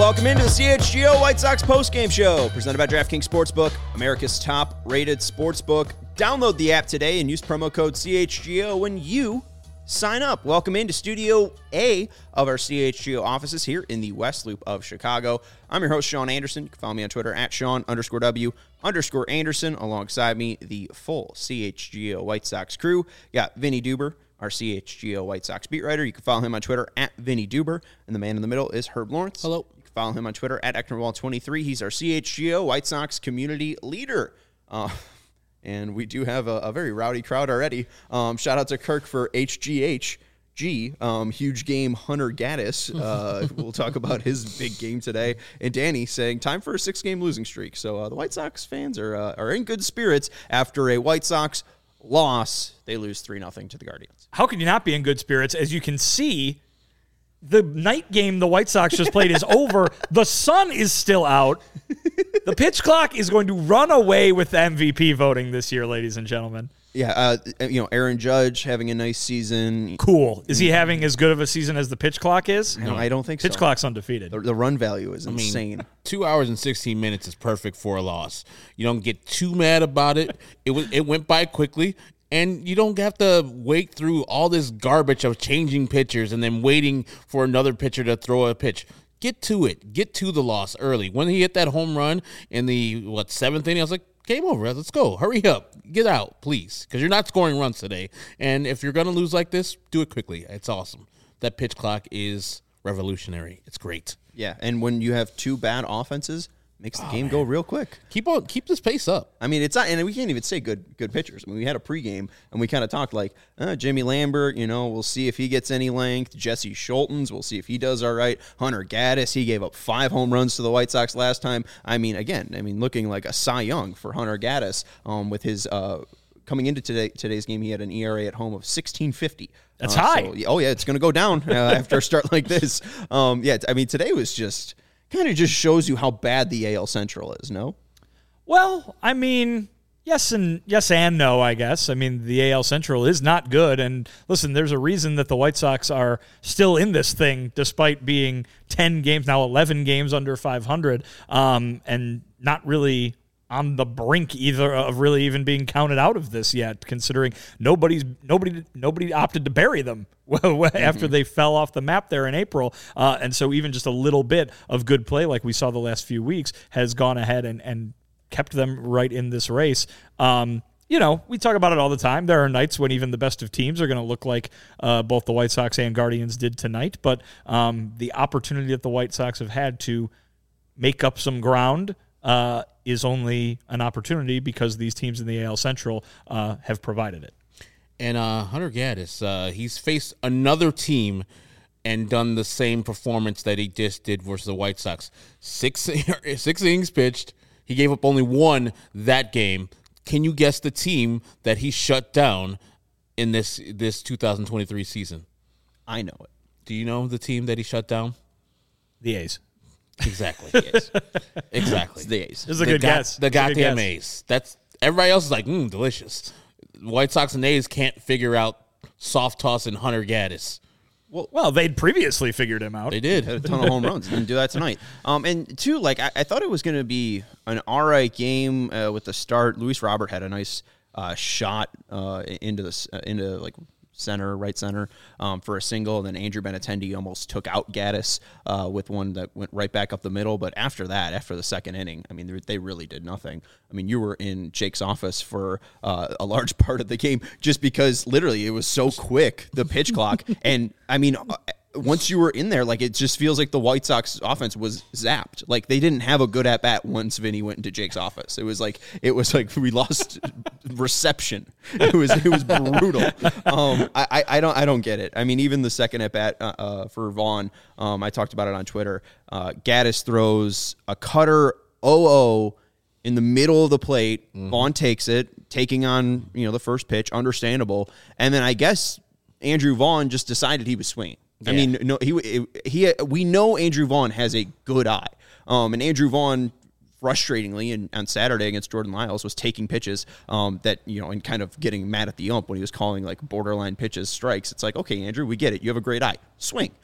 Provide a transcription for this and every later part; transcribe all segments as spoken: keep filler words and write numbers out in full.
Welcome into the C H G O White Sox postgame show, presented by DraftKings Sportsbook, America's top-rated sportsbook. Download the app today and use promo code C H G O when you sign up. Welcome into Studio A of our C H G O offices here in the West Loop of Chicago. I'm your host, Sean Anderson. You can follow me on Twitter at Sean underscore W underscore Anderson. Alongside me, the full C H G O White Sox crew. You got Vinny Duber, our C H G O White Sox beat writer. You can follow him on Twitter at Vinny Duber. And the man in the middle is Herb Lawrence. Hello. You can follow him on Twitter at Ecknerwall twenty-three. He's our C H G O White Sox community leader. Uh, and we do have a, a very rowdy crowd already. Um, shout out to Kirk for H G H G, um, huge game Hunter Gaddis. Uh, we'll talk about his big game today. And Danny saying time for a six-game losing streak. So uh, the White Sox fans are uh, are in good spirits after a White Sox loss. They lose three nothing to the Guardians. How could you not be in good spirits? As you can see, the night game the White Sox just played is over. The sun is still out. The pitch clock is going to run away with the M V P voting this year, ladies and gentlemen. Yeah, uh, you know, Aaron Judge having a nice season. Cool. Is he having as good of a season as the pitch clock is? No, I don't think pitch so. Pitch clock's undefeated. The, the run value is I mean, insane. Two hours and sixteen minutes is perfect for a loss. You don't get too mad about it. It was it went by quickly. And you don't have to wait through all this garbage of changing pitchers and then waiting for another pitcher to throw a pitch. Get to it. Get to the loss early. When he hit that home run in the, what, seventh inning, I was like, game over. Let's go. Hurry up. Get out, please, because you're not scoring runs today. And if you're going to lose like this, do it quickly. It's awesome. That pitch clock is revolutionary. It's great. Yeah, and when you have two bad offenses, makes the oh, game man. go real quick. Keep on, keep this pace up. I mean, it's not, and we can't even say good, good pitchers. I mean, we had a pregame, and we kind of talked like uh, Jimmy Lambert. You know, we'll see if he gets any length. Jesse Schultens, we'll see if he does all right. Hunter Gaddis, he gave up five home runs to the White Sox last time. I mean, again, I mean, looking like a Cy Young for Hunter Gaddis um, with his. Uh, Coming into today, today's game, he had an E R A at home of sixteen fifty. That's uh, high. So, oh yeah, it's going to go down uh, after a start like this. Um, yeah, I mean, today was just. Kind of just shows you how bad the A L Central is, no? Well, I mean, yes and yes and no, I guess. I mean, the A L Central is not good. And listen, there's a reason that the White Sox are still in this thing, despite being ten games, now eleven games under five hundred, um, and not really on the brink either of really even being counted out of this yet, considering nobody's nobody nobody opted to bury them after mm-hmm. they fell off the map there in April. Uh, and so even just a little bit of good play like we saw the last few weeks has gone ahead and, and kept them right in this race. Um, you know, we talk about it all the time. There are nights when even the best of teams are going to look like uh, both the White Sox and Guardians did tonight. But um, the opportunity that the White Sox have had to make up some ground uh, is only an opportunity because these teams in the A L Central uh, have provided it. And uh, Hunter Gaddis, uh, he's faced another team and done the same performance that he just did versus the White Sox. Six, six innings pitched. He gave up only one that game. Can you guess the team that he shut down in this this two thousand twenty-three season? I know it. Do you know the team that he shut down? The A's. Exactly. Yes. Exactly. It's the A's. This is a the good go- guess. The goddamn A's. That's everybody else is like, mm, delicious. White Sox and A's can't figure out soft toss and Hunter Gaddis. Well, well, they'd previously figured him out. They did. Had a ton of home runs. Didn't do that tonight. Um, and two, like I, I thought it was going to be an all right game uh, with the start. Luis Robert had a nice uh, shot uh, into the uh, into like. center, right center, um, for a single, and then Andrew Benintendi almost took out Gaddis uh, with one that went right back up the middle. But after that, after the second inning, I mean, they really did nothing. I mean, you were in Jake's office for uh, a large part of the game just because literally it was so quick, the pitch clock. And, I mean, once you were in there, like, it just feels like the White Sox offense was zapped. Like, they didn't have a good at-bat once Vinny went into Jake's office. It was like, it was like we lost reception. It was it was brutal. Um, I, I don't I don't get it. I mean, even the second at-bat uh, uh, for Vaughn, um, I talked about it on Twitter. Uh, Gaddis throws a cutter oh oh in the middle of the plate. Mm-hmm. Vaughn takes it, taking on, you know, the first pitch, understandable. And then I guess Andrew Vaughn just decided he was swinging. Yeah. I mean, no, he he. We know Andrew Vaughn has a good eye, um, and Andrew Vaughn, frustratingly, and on Saturday against Jordan Lyles, was taking pitches um, that, you know, and kind of getting mad at the ump when he was calling like borderline pitches strikes. It's like, okay, Andrew, we get it. You have a great eye. Swing.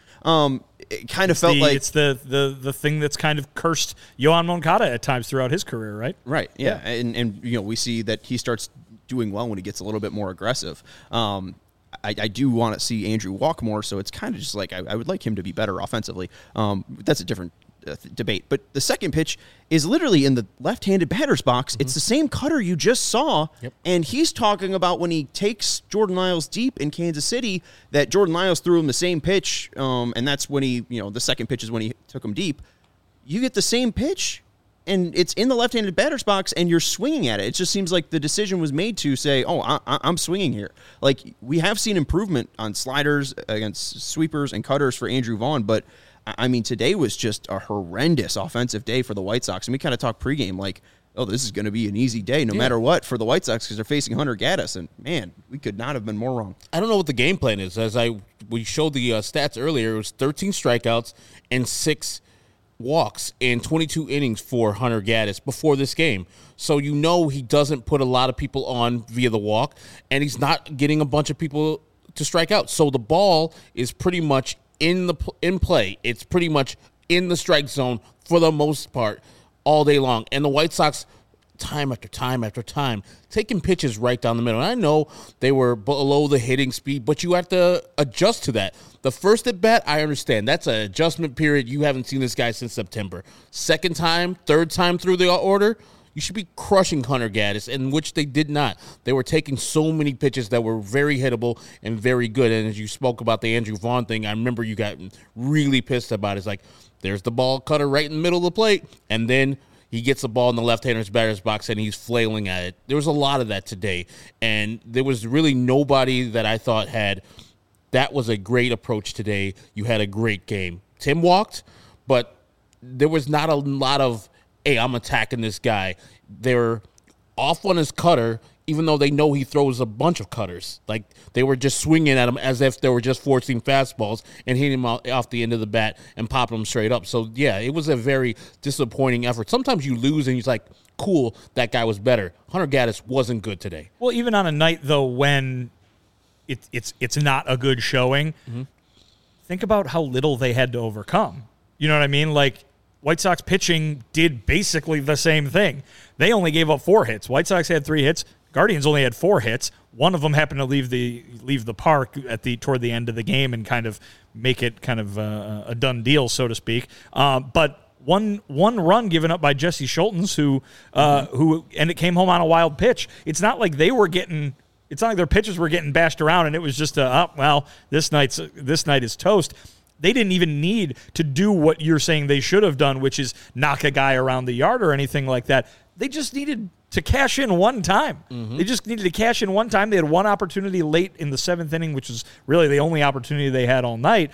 Um, it kind of It's felt the, like it's the, the the thing that's kind of cursed Yohan Moncada at times throughout his career, right? right, yeah, and and you know we see that he starts doing well when he gets a little bit more aggressive. Um, I, I do want to see Andrew walk more, so it's kind of just like I, I would like him to be better offensively. Um, that's a different uh, th- debate. But the second pitch is literally in the left-handed batter's box. Mm-hmm. It's the same cutter you just saw, yep. and he's talking about when he takes Jordan Lyles deep in Kansas City that Jordan Lyles threw him the same pitch, um, and that's when he, you know, the second pitch is when he took him deep. You get the same pitch, and it's in the left-handed batter's box, and you're swinging at it. It just seems like the decision was made to say, oh, I, I, I'm swinging here. Like, we have seen improvement on sliders against sweepers and cutters for Andrew Vaughn, but, I mean, today was just a horrendous offensive day for the White Sox. And we kind of talked pregame like, oh, this is going to be an easy day no yeah. matter what for the White Sox because they're facing Hunter Gaddis. And, man, we could not have been more wrong. I don't know what the game plan is. As I we showed the uh, stats earlier, it was thirteen strikeouts and six walks in twenty-two innings for Hunter Gaddis before this game. So you know he doesn't put a lot of people on via the walk, and he's not getting a bunch of people to strike out. So the ball is pretty much in the in play. It's pretty much in the strike zone for the most part all day long. And the White Sox, time after time after time, taking pitches right down the middle. And I know they were below the hitting speed, but you have to adjust to that. The first at bat, I understand. That's an adjustment period. You haven't seen this guy since September. Second time, third time through the order, you should be crushing Hunter Gaddis, in which they did not. They were taking so many pitches that were very hittable and very good. And as you spoke about the Andrew Vaughn thing, I remember you got really pissed about it. It's like, there's the ball cutter right in the middle of the plate, and then he gets the ball in the left-hander's batter's box, and he's flailing at it. There was a lot of that today, and there was really nobody that I thought had – that was a great approach today. You had a great game. Tim walked, but there was not a lot of, hey, I'm attacking this guy. They're off on his cutter, even though they know he throws a bunch of cutters. Like, they were just swinging at him as if they were just forcing fastballs and hitting him off the end of the bat and popping him straight up. So, yeah, it was a very disappointing effort. Sometimes you lose and you're like, cool, that guy was better. Hunter Gaddis wasn't good today. Well, even on a night, though, when it, it's it's not a good showing, mm-hmm. think about how little they had to overcome. You know what I mean? Like, White Sox pitching did basically the same thing. They only gave up four hits. White Sox had three hits. Guardians only had four hits. One of them happened to leave the leave the park at the toward the end of the game and kind of make it kind of a, a done deal, so to speak. Uh, but one one run given up by Jesse Schultens, who uh, mm-hmm. who and it came home on a wild pitch. It's not like they were getting. It's not like their pitchers were getting bashed around and it was just a oh, well this night's this night is toast. They didn't even need to do what you're saying they should have done, which is knock a guy around the yard or anything like that. They just needed to cash in one time. Mm-hmm. They just needed to cash in one time. They had one opportunity late in the seventh inning, which is really the only opportunity they had all night.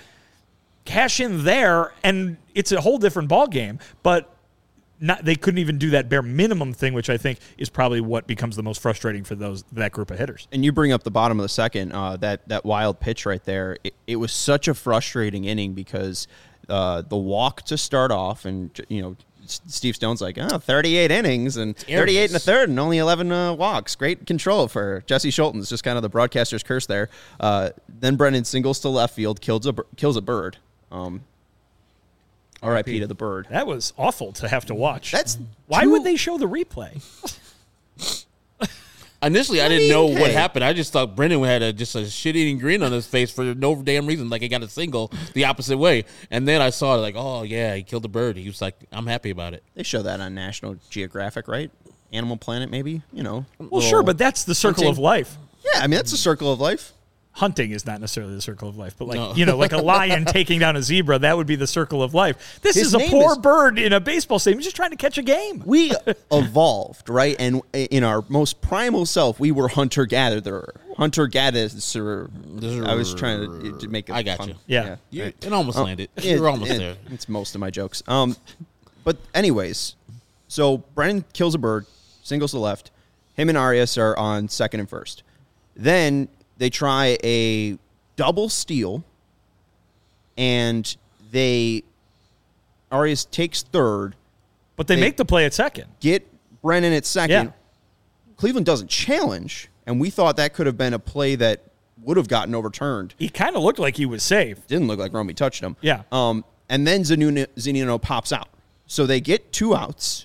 Cash in there, and it's a whole different ball game. But not, they couldn't even do that bare minimum thing, which I think is probably what becomes the most frustrating for those that group of hitters. And you bring up the bottom of the second, uh, that that wild pitch right there. It, it was such a frustrating inning because uh, the walk to start off, and you know, Steve Stone's like, oh, thirty-eight innings and thirty-eight and a third and only eleven uh, walks. Great control for Jesse Schultens. Just kind of the broadcaster's curse there. Uh, then Brennan singles to left field, kills a kills a bird. Um, R I P to the bird. That was awful to have to watch. That's why too... would they show the replay? Initially, I, I didn't mean, know hey. what happened. I just thought Brennan had a, just a shit-eating grin on his face for no damn reason, like he got a single the opposite way. And then I saw it like, oh, yeah, he killed a bird. He was like, I'm happy about it. They show that on National Geographic, right? Animal Planet, maybe? You know. Well, sure, but that's the circle hunting. of life. Yeah, I mean, that's the circle of life. Hunting is not necessarily the circle of life, but like, no. you know, like a lion taking down a zebra, that would be the circle of life. This His is a poor is, bird in a baseball stadium just trying to catch a game. We evolved, right? And in our most primal self, we were hunter-gatherer. Hunter-gatherer. I was trying to, to make it I got fun. you. Yeah. yeah. You, right. It almost um, landed. It, You're almost it, there. It's most of my jokes. Um, But anyways, so Brennan kills a bird, singles to left. Him and Arias are on second and first. Then they try a double steal, and they Arias takes third. But they, they make the play at second. Get Brennan at second. Yeah. Cleveland doesn't challenge, and we thought that could have been a play that would have gotten overturned. He kind of looked like he was safe. Didn't look like Romy touched him. Yeah. Um, and then Zunino, Zunino pops out. So they get two outs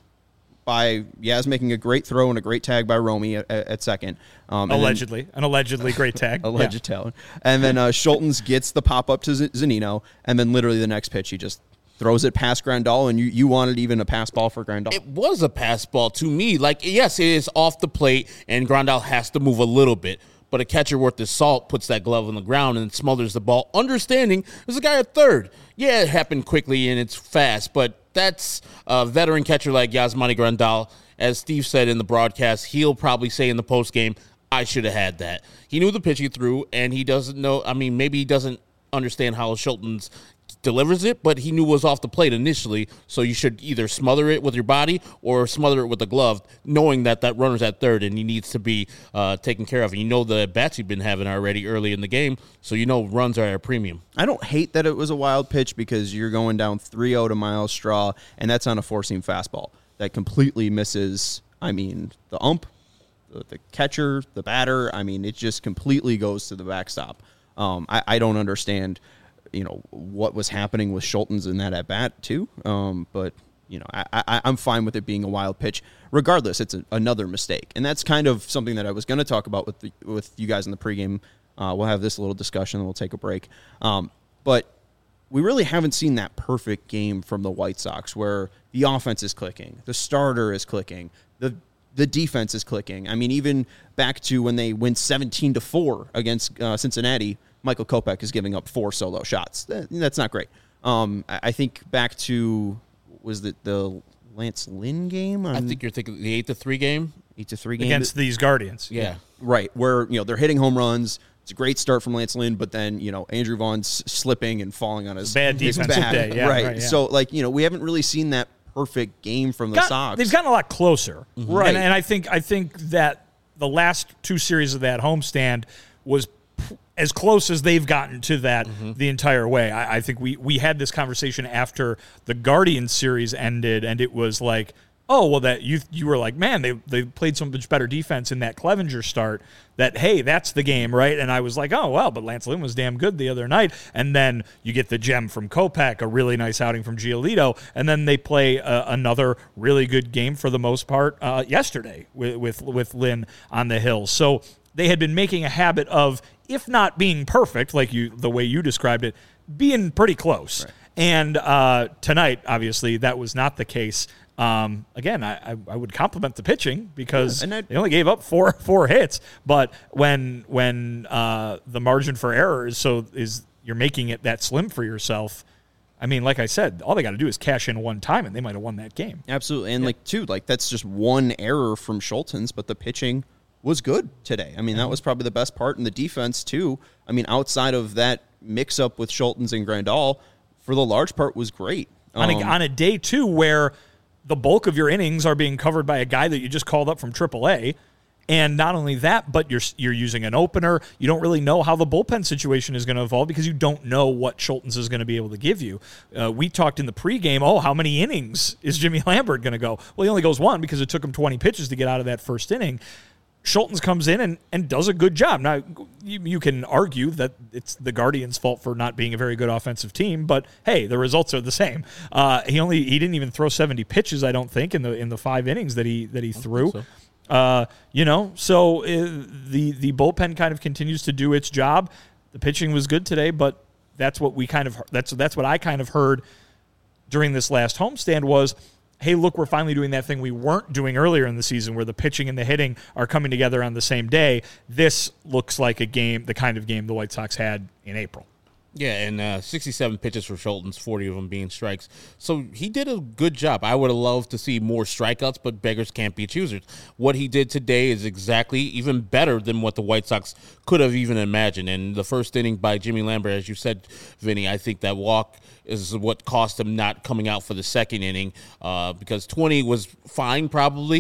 by Yaz making a great throw and a great tag by Romy at, at second. Um, allegedly. Then, an allegedly great tag. alleged yeah. talent. And then uh, Schultens gets the pop-up to Z- Zunino, and then literally the next pitch, he just throws it past Grandal, and you, you wanted even a pass ball for Grandal. It was a pass ball to me. Like, yes, it is off the plate, and Grandal has to move a little bit. But a catcher worth his salt puts that glove on the ground and smothers the ball, understanding there's a guy at third. Yeah, it happened quickly and it's fast, but that's a veteran catcher like Yasmani Grandal. As Steve said in the broadcast, he'll probably say in the postgame, I should have had that. He knew the pitch he threw, and he doesn't know, I mean, maybe he doesn't understand how Schultens delivers it, but he knew it was off the plate initially, so you should either smother it with your body or smother it with the glove, knowing that that runner's at third and he needs to be uh, taken care of. And you know the bats you've been having already early in the game, so you know runs are at a premium. I don't hate that it was a wild pitch because you're going down three oh to Miles Straw, and that's on a four-seam fastball that completely misses, I mean, the ump, the, the catcher, the batter. I mean, it just completely goes to the backstop. Um, I, I don't understand you know, what was happening with Schultens in that at bat too. Um, but you know, I, I, I'm fine with it being a wild pitch. Regardless, it's a, another mistake, and that's kind of something that I was going to talk about with the, with you guys in the pregame. Uh, we'll have this little discussion, and we'll take a break. Um, but we really haven't seen that perfect game from the White Sox, where the offense is clicking, the starter is clicking, the the defense is clicking. I mean, even back to when they win seventeen to four against uh, Cincinnati. Michael Kopech is giving up four solo shots. That's not great. Um, I think back to, was it the Lance Lynn game? I think you're thinking the eight to three game? eight to three game. Against these Guardians. Yeah. yeah. Right, where, you know, they're hitting home runs. It's a great start from Lance Lynn, but then, you know, Andrew Vaughn's slipping and falling on his bad defensive his back. day. Yeah, right. right yeah. So, like, you know, we haven't really seen that perfect game from the Got, Sox. They've gotten a lot closer. Mm-hmm. Right. And, and I think I think that the last two series of that homestand was as close as they've gotten to that mm-hmm. the entire way. I, I think we, we had this conversation after the Guardians series ended, and it was like, oh, well, that you you were like, man, they they played so much better defense in that Clevenger start that, hey, that's the game, right? And I was like, oh, well, but Lance Lynn was damn good the other night. And then you get the gem from Kopech, a really nice outing from Giolito, and then they play uh, another really good game for the most part uh, yesterday with, with, with Lynn on the hill. So they had been making a habit of, if not being perfect, like you the way you described it, being pretty close. Right. And uh, tonight, obviously, that was not the case. Um, again, I, I, I would compliment the pitching because yeah, they only gave up four four hits. But when when uh, the margin for error is so is you're making it that slim for yourself. I mean, like I said, all they got to do is cash in one time, and they might have won that game. Absolutely, and yeah. like too, like that's just one error from Schultens, but the pitching was good today. I mean, that was probably the best part, and the defense too. I mean, outside of that mix-up with Schultens and Grandal, for the large part, was great. On a, Um, on a day, too, where the bulk of your innings are being covered by a guy that you just called up from triple A, and not only that, but you're you're using an opener. You don't really know how the bullpen situation is going to evolve because you don't know what Schultens is going to be able to give you. Uh, we talked in the pregame, oh, how many innings is Jimmy Lambert going to go? Well, he only goes one because it took him twenty pitches to get out of that first inning. Schultens comes in and, and does a good job. Now, you, you can argue that it's the Guardians' fault for not being a very good offensive team, but hey, the results are the same. Uh, he only he didn't even throw seventy pitches, I don't think, in the in the five innings that he that he threw. So. Uh, you know, so uh, the the bullpen kind of continues to do its job. The pitching was good today, but that's what we kind of that's that's what I kind of heard during this last homestand was, hey, look, we're finally doing that thing we weren't doing earlier in the season where the pitching and the hitting are coming together on the same day. This looks like a game, the kind of game the White Sox had in April. Yeah, and uh, sixty-seven pitches for Schultens, forty of them being strikes. So he did a good job. I would have loved to see more strikeouts, but beggars can't be choosers. What he did today is exactly even better than what the White Sox could have even imagined. And the first inning by Jimmy Lambert, as you said, Vinny, I think that walk is what cost him not coming out for the second inning uh, because twenty was fine probably.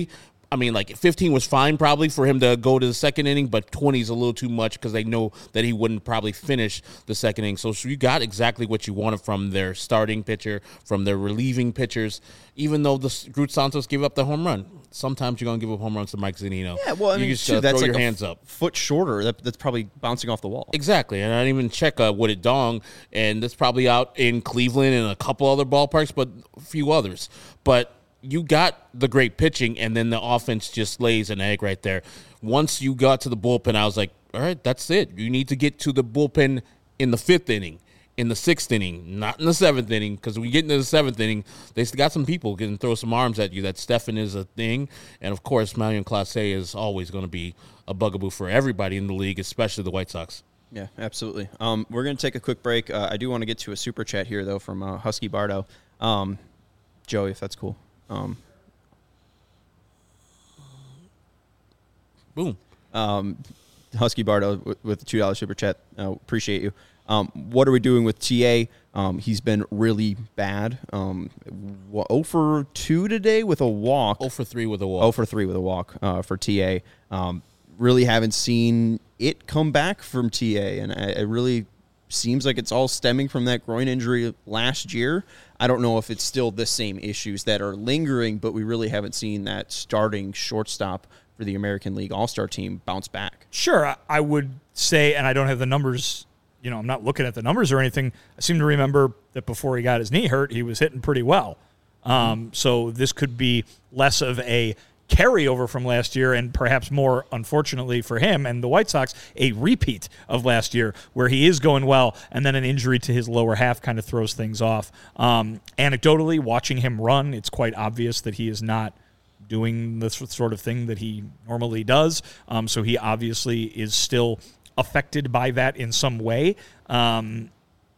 I mean, like fifteen was fine probably for him to go to the second inning, but twenty is a little too much because they know that he wouldn't probably finish the second inning. So, so you got exactly what you wanted from their starting pitcher, from their relieving pitchers. Even though the Groot Santos gave up the home run, sometimes you're going to give up home runs to Mike Zunino. Yeah, well, I mean, you just too, uh, that's throw like your a hands up. Foot shorter. That, that's probably bouncing off the wall. Exactly, and I didn't even check uh, Wooded Dong, and that's probably out in Cleveland and a couple other ballparks, but a few others. But you got the great pitching, and then the offense just lays an egg right there. Once you got to the bullpen, I was like, all right, that's it. You need to get to the bullpen in the fifth inning, in the sixth inning, not in the seventh inning, because when you get into the seventh inning, they got some people who can throw some arms at you. That Stefan is a thing, and, of course, Marion Clase is always going to be a bugaboo for everybody in the league, especially the White Sox. Yeah, absolutely. Um, we're going to take a quick break. Uh, I do want to get to a super chat here, though, from uh, Husky Bardo. Um, Joey, if that's cool. Um, Boom. Um, Husky Bardo with, with the two dollar super chat. Uh, appreciate you. Um, what are we doing with T A? Um, he's been really bad. Um, zero for two today with a walk. zero for three with a walk. zero for three with a walk uh, for T A. Um, really haven't seen it come back from T A, and I, it really seems like it's all stemming from that groin injury last year. I don't know if it's still the same issues that are lingering, but we really haven't seen that starting shortstop for the American League All-Star team bounce back. Sure, I, I would say, and I don't have the numbers, you know, I'm not looking at the numbers or anything. I seem to remember that before he got his knee hurt, he was hitting pretty well. Um, mm-hmm. So this could be less of a carryover from last year and perhaps more, unfortunately for him and the White Sox, a repeat of last year where he is going well and then an injury to his lower half kind of throws things off. Um, anecdotally, watching him run, it's quite obvious that he is not doing the sort of thing that he normally does. Um, so he obviously is still affected by that in some way. Um,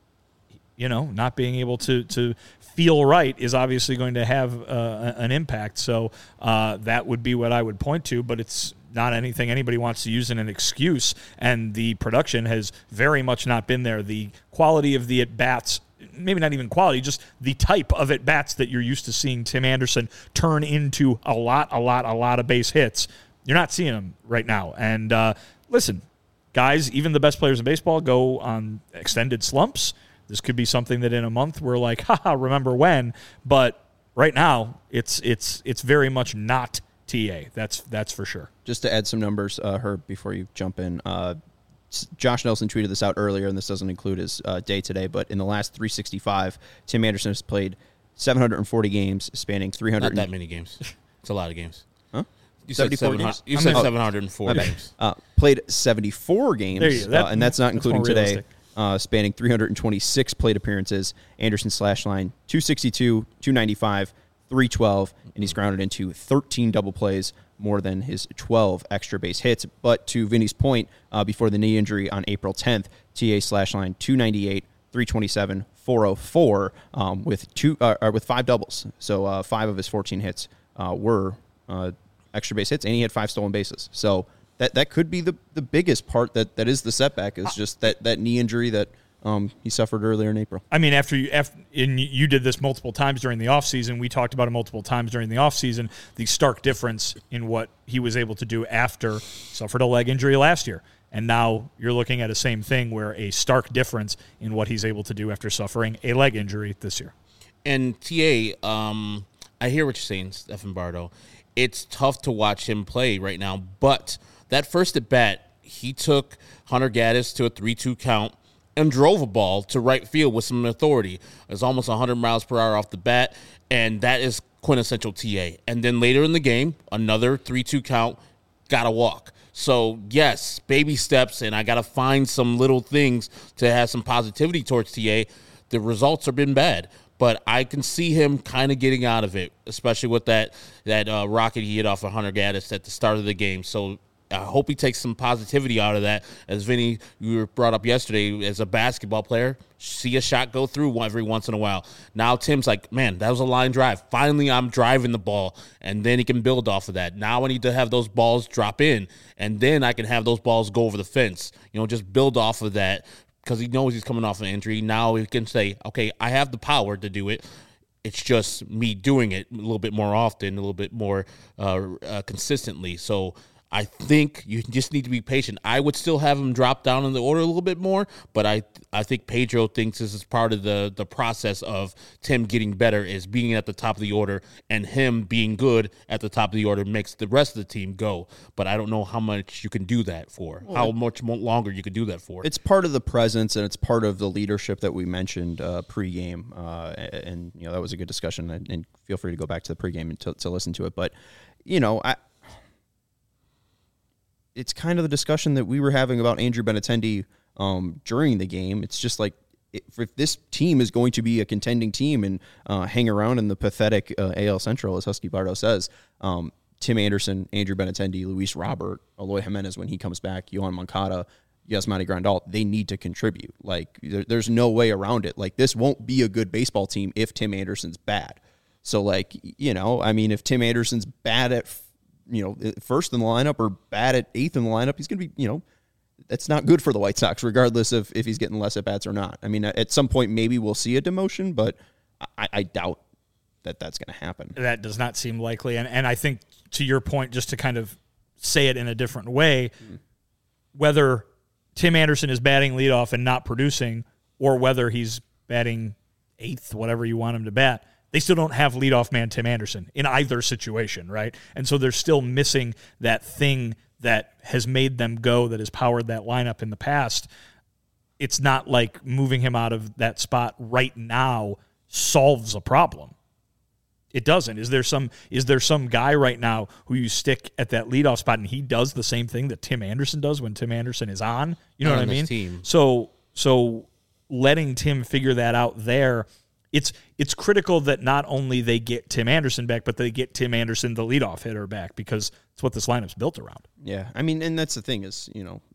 you know, not being able to to feel right is obviously going to have uh, an impact. So uh, that would be what I would point to, but it's not anything anybody wants to use in an excuse, and the production has very much not been there. The quality of the at-bats, maybe not even quality, just the type of at-bats that you're used to seeing Tim Anderson turn into a lot, a lot, a lot of base hits, you're not seeing them right now. And uh, listen, guys, even the best players in baseball go on extended slumps. This could be something that in a month we're like, haha, remember when? But right now, it's it's it's very much not T A. That's that's for sure. Just to add some numbers, uh, Herb, before you jump in, uh, Josh Nelson tweeted this out earlier, and this doesn't include his uh, day today, but in the last three sixty-five, Tim Anderson has played seven hundred forty games, spanning three hundred. Not that many games. It's a lot of games. Huh? You said, seven hundred, you I said mean, seven hundred four games. Uh, played seventy-four games, There you go. That- uh, and that's not that's including more today. realistic. Uh, spanning three hundred twenty-six plate appearances. Anderson slash line two sixty-two, two ninety-five, three twelve, and he's grounded into thirteen double plays, more than his twelve extra base hits. But to Vinny's point, uh, before the knee injury on April tenth, T A slash line two ninety-eight, three twenty-seven, four oh four, um, with two uh, or with five doubles. So uh, five of his fourteen hits uh, were uh, extra base hits, and he had five stolen bases. So that that could be the, the biggest part that, that is the setback, is just that, that knee injury that um, he suffered earlier in April. I mean, after you after, and you did this multiple times during the offseason, we talked about it multiple times during the offseason, the stark difference in what he was able to do after suffered a leg injury last year. And now you're looking at a same thing where a stark difference in what he's able to do after suffering a leg injury this year. And T A, um, I hear what you're saying, Stephen Bardo. It's tough to watch him play right now, but that first at bat, he took Hunter Gaddis to a three two count and drove a ball to right field with some authority. It was almost one hundred miles per hour off the bat, and that is quintessential T A. And then later in the game, another three two count, got a walk. So, yes, baby steps, and I got to find some little things to have some positivity towards T A. The results have been bad, but I can see him kind of getting out of it, especially with that that uh, rocket he hit off of Hunter Gaddis at the start of the game. So I hope he takes some positivity out of that. As Vinny, you were brought up yesterday, as a basketball player, see a shot go through every once in a while. Now Tim's like, man, that was a line drive. Finally, I'm driving the ball, and then he can build off of that. Now I need to have those balls drop in, and then I can have those balls go over the fence. You know, just build off of that, because he knows he's coming off an injury. Now he can say, okay, I have the power to do it. It's just me doing it a little bit more often, a little bit more uh, uh, consistently. So I think you just need to be patient. I would still have him drop down in the order a little bit more, but I I think Pedro thinks this is part of the the process of Tim getting better, is being at the top of the order, and him being good at the top of the order makes the rest of the team go. But I don't know how much you can do that for, well, how much more longer you can do that for. It's part of the presence, and it's part of the leadership that we mentioned uh, pregame, uh, and you know that was a good discussion. And, and feel free to go back to the pregame to, to listen to it. But you know, I. It's kind of the discussion that we were having about Andrew Benintendi um, during the game. It's just like, if, if this team is going to be a contending team and uh, hang around in the pathetic uh, A L Central, as Husky Bardo says, um, Tim Anderson, Andrew Benintendi, Luis Robert, Eloy Jimenez when he comes back, Yohan Moncada, Yasmani Grandal, they need to contribute. Like, there, there's no way around it. Like, this won't be a good baseball team if Tim Anderson's bad. So, like, you know, I mean, if Tim Anderson's bad at you know, first in the lineup or bad at eighth in the lineup, he's going to be, you know, that's not good for the White Sox, regardless of if he's getting less at-bats or not. I mean, at some point, maybe we'll see a demotion, but I, I doubt that that's going to happen. That does not seem likely. And, and I think, to your point, just to kind of say it in a different way, mm. whether Tim Anderson is batting leadoff and not producing, or whether he's batting eighth, whatever you want him to bat, they still don't have leadoff man Tim Anderson in either situation, right? And so they're still missing that thing that has made them go, that has powered that lineup in the past. It's not like moving him out of that spot right now solves a problem. It doesn't. Is there some is there some guy right now who you stick at that leadoff spot and he does the same thing that Tim Anderson does when Tim Anderson is on? You know Not what I mean? Team. So so letting Tim figure that out there, It's it's critical that not only they get Tim Anderson back, but they get Tim Anderson, the leadoff hitter, back, because it's what this lineup's built around. Yeah, I mean, and that's the thing is, you know,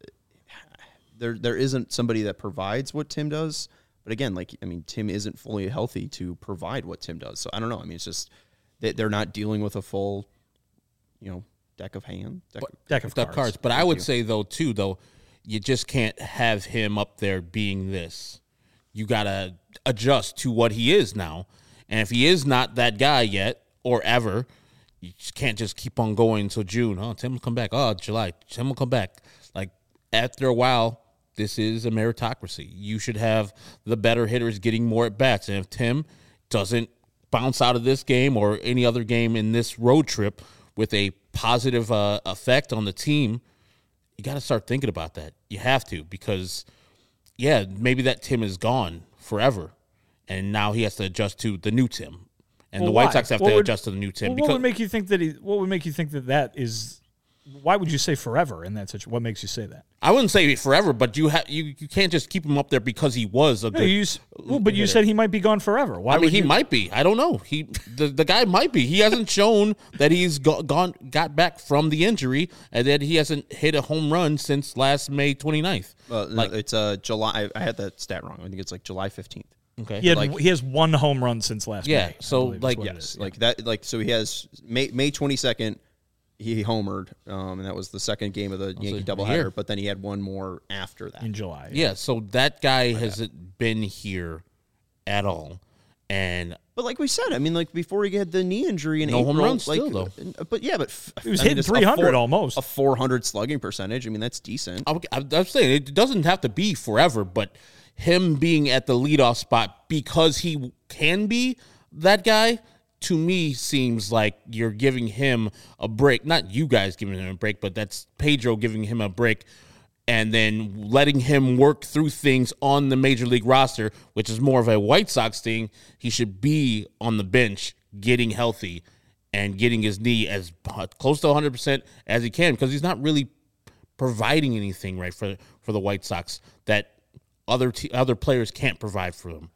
there there isn't somebody that provides what Tim does. But again, like, I mean, Tim isn't fully healthy to provide what Tim does. So I don't know. I mean, it's just that they're not dealing with a full, you know, deck of hand, deck, but, deck of deck cards. cards. But I would say though, too, though, you just can't have him up there being this. You got to adjust to what he is now. And if he is not that guy yet or ever, you just can't just keep on going until June. Oh, Tim will come back. Oh, July. Tim will come back. Like, after a while, this is a meritocracy. You should have the better hitters getting more at-bats. And if Tim doesn't bounce out of this game or any other game in this road trip with a positive uh, effect on the team, you got to start thinking about that. You have to, because – yeah, maybe that Tim is gone forever, and now he has to adjust to the new Tim, and well, the White why? Sox have what to would, adjust to the new Tim. Well, because what would make you think that he? What would make you think that that is? Why would you say forever in that situation? What makes you say that? I wouldn't say forever, but you have you, you can't just keep him up there because he was a no, good. You, well, but you said he might be gone forever. Why? I mean, would he you? might be. I don't know. He the, the guy might be. He hasn't shown that he's go, gone got back from the injury, and that he hasn't hit a home run since last May twenty-ninth. Well, no, like, it's uh, July. I, I had that stat wrong. I think it's like July fifteenth. Okay. He, had, like, he has one home run since last yeah, May. so, like, yes, like that. Like, so he has May May twenty-second. He homered, um, and that was the second game of the Yankee doubleheader. here. But then he had one more after that. in July. Yeah, so that guy hasn't been here at all, and But like we said, I mean, like before he had the knee injury in No April, home runs like, still, though. But yeah, but f- He was I mean, hitting just a three hundred four- almost. a four hundred slugging percentage. I mean, that's decent. I, I'm saying it doesn't have to be forever, but him being at the leadoff spot because he can be that guy, to me, seems like you're giving him a break. Not you guys giving him a break, but that's Pedro giving him a break and then letting him work through things on the major league roster, which is more of a White Sox thing. He should be on the bench getting healthy and getting his knee as close to one hundred percent as he can, because he's not really providing anything right for, for the White Sox that other t- other players can't provide for them.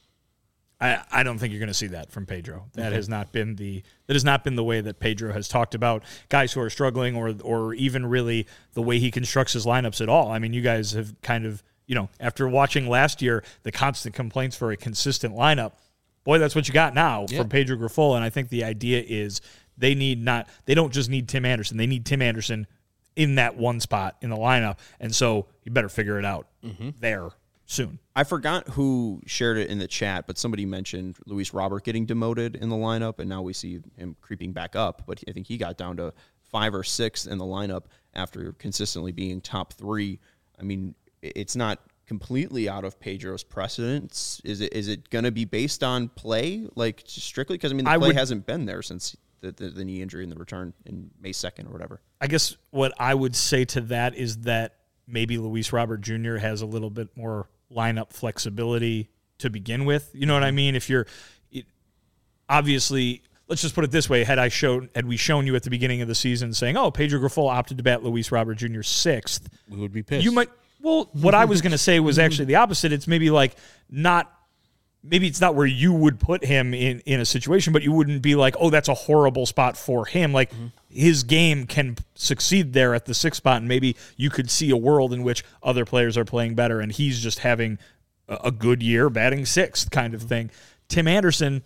I, I don't think you're going to see that from Pedro. That okay. has not been the that has not been the way that Pedro has talked about guys who are struggling, or or even really the way he constructs his lineups at all. I mean, you guys have kind of, you know, after watching last year the constant complaints for a consistent lineup, boy, that's what you got now yeah. from Pedro Grifol. And I think the idea is they need not they don't just need Tim Anderson. They need Tim Anderson in that one spot in the lineup, and so you better figure it out mm-hmm. there. soon. I forgot who shared it in the chat, but somebody mentioned Luis Robert getting demoted in the lineup, and now we see him creeping back up. But I think he got down to five or six in the lineup after consistently being top three. I mean, it's not completely out of Pedro's precedence. Is it? Is it going to be based on play, like strictly? Because I mean, the I play would, hasn't been there since the, the, the knee injury and the return in May second or whatever. I guess what I would say to that is that maybe Luis Robert Junior has a little bit more lineup flexibility to begin with. You know what I mean? If you're it, obviously, let's just put it this way: had I shown, had we shown you at the beginning of the season saying, "Oh, Pedro Grifol opted to bat Luis Robert Junior sixth," We would be pissed. you might. Well, what I was going to say was actually the opposite. It's maybe like not. Maybe it's not where you would put him in, in a situation, but you wouldn't be like, oh, that's a horrible spot for him. Like, mm-hmm. his game can succeed there at the sixth spot, and maybe you could see a world in which other players are playing better, and he's just having a, a good year batting sixth kind of thing. Tim Anderson,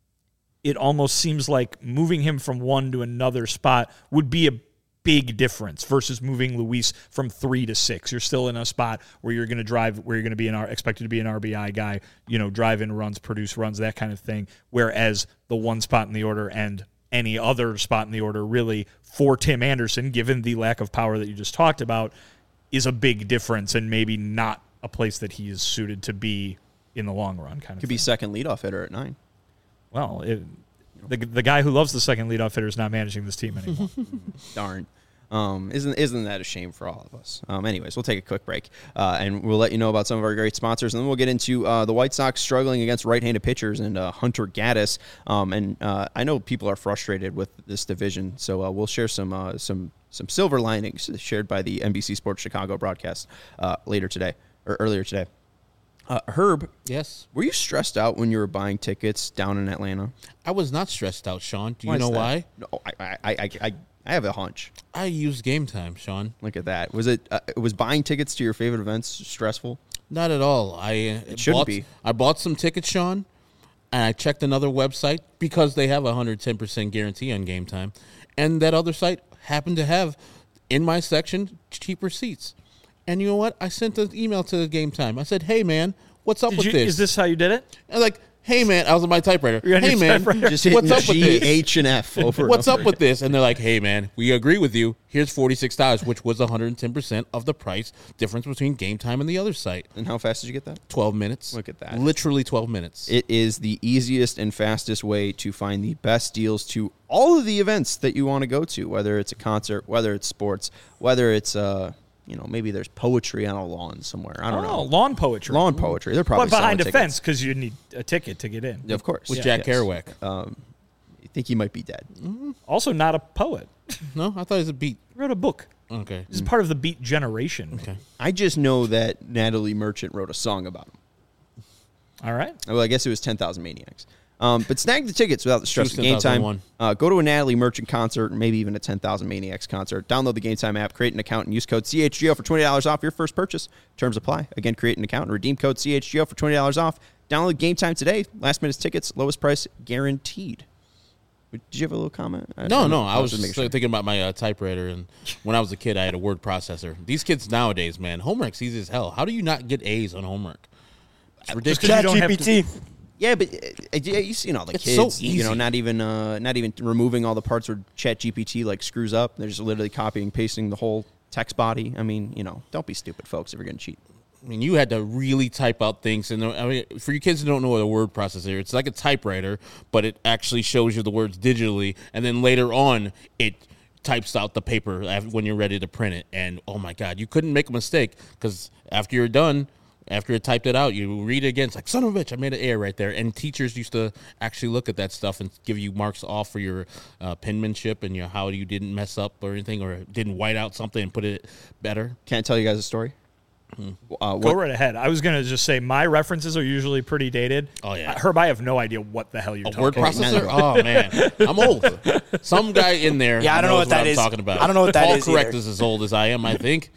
it almost seems like moving him from one to another spot would be a big difference versus moving Luis from three to six. You're still in a spot where you're going to drive, where you're going to be an expected to be an R B I guy, you know, drive in runs, produce runs, that kind of thing. Whereas the one spot in the order and any other spot in the order, really, for Tim Anderson, given the lack of power that you just talked about, is a big difference and maybe not a place that he is suited to be in the long run. Kind of could thing. be second leadoff hitter at nine. Well, it, the the guy who loves the second leadoff hitter is not managing this team anymore. Darn. Um, isn't isn't that a shame for all of us? Um, anyways, we'll take a quick break, uh, and we'll let you know about some of our great sponsors, and then we'll get into uh, the White Sox struggling against right-handed pitchers and uh, Hunter Gaddis. Um, and uh, I know people are frustrated with this division, so uh, we'll share some uh, some some silver linings shared by the N B C Sports Chicago broadcast uh, later today or earlier today. Uh, Herb, yes, were you stressed out when you were buying tickets down in Atlanta? I was not stressed out, Sean. Do you why know why? No, I, I, I, I, I have a hunch. I used Game Time, Sean. Look at that. Was it uh, was buying tickets to your favorite events stressful? Not at all. I uh, it shouldn't bought, be. I bought some tickets, Sean, and I checked another website because they have a one hundred ten percent guarantee on Game Time, and that other site happened to have in my section cheaper seats. And you know what? I sent an email to Game Time. I said, "Hey, man, what's up Did with you, this?" Is this how you did it? And like, "Hey, man," I was on my typewriter. You're on "Hey, your man, typewriter. Just what's up with G, this? H, and F over. What's and up over. with this?" And they're like, "Hey, man, we agree with you. Here's forty-six dollars, which was one hundred ten percent of the price difference between Game Time and the other site." And how fast did you get that? twelve minutes. Look at that. Literally twelve minutes. It is the easiest and fastest way to find the best deals to all of the events that you want to go to, whether it's a concert, whether it's sports, whether it's uh, you know, maybe there's poetry on a lawn somewhere. I don't oh, know. lawn poetry. Lawn poetry. They're probably But behind a selling fence tickets. because you need a ticket to get in. Of course. With Yeah. Jack Yes. Kerouac. Um, I think he might be dead. Also, not a poet. No, I thought it was a beat. He wrote a book. Okay. This is part of the Beat generation. Okay. I just know that Natalie Merchant wrote a song about him. All right. Well, I guess it was ten thousand Maniacs. Um, but snag the tickets without the stress of Choose Game Time. ten thousand one. Uh, go to a Natalie Merchant concert, maybe even a ten thousand Maniacs concert. Download the Game Time app, create an account, and use code C H G O for twenty dollars off your first purchase. Terms apply. Again, create an account and redeem code C H G O for twenty dollars off. Download Game Time today. Last minute tickets, lowest price guaranteed. Did you have a little comment? No, no. I was just just making sure. thinking about my uh, typewriter, and when I was a kid, I had a word processor. These kids nowadays, man, homework's easy as hell. How do you not get A's on homework? It's ridiculous. 'cause you don't have ChatGPT. Yeah, but uh, uh, yeah, you see all the It's kids, so you know, easy. not even uh, not even removing all the parts where ChatGPT like screws up. They're just literally copying and pasting the whole text body. I mean, you know, don't be stupid, folks, if you're going to cheat. I mean, you had to really type out things. And I mean, for you kids who don't know what a word processor is, it's like a typewriter, but it actually shows you the words digitally. And then later on, it types out the paper af- when you're ready to print it. And, oh, my God, you couldn't make a mistake because after you're done, after it typed it out, you read it again. It's like, son of a bitch, I made an error right there. And teachers used to actually look at that stuff and give you marks off for your uh, penmanship and your how you didn't mess up or anything or didn't white out something and put it better. Can I tell you guys a story? Hmm. Uh, Go what, right ahead. I was going to just say my references are usually pretty dated. Oh, yeah. Uh, Herb, I have no idea what the hell you're A talking word about. processor? Oh, man. I'm old. Some guy in there Yeah, I don't know knows what that I'm is. talking about. I don't know what that Paul is Correct either. is as old as I am, I think.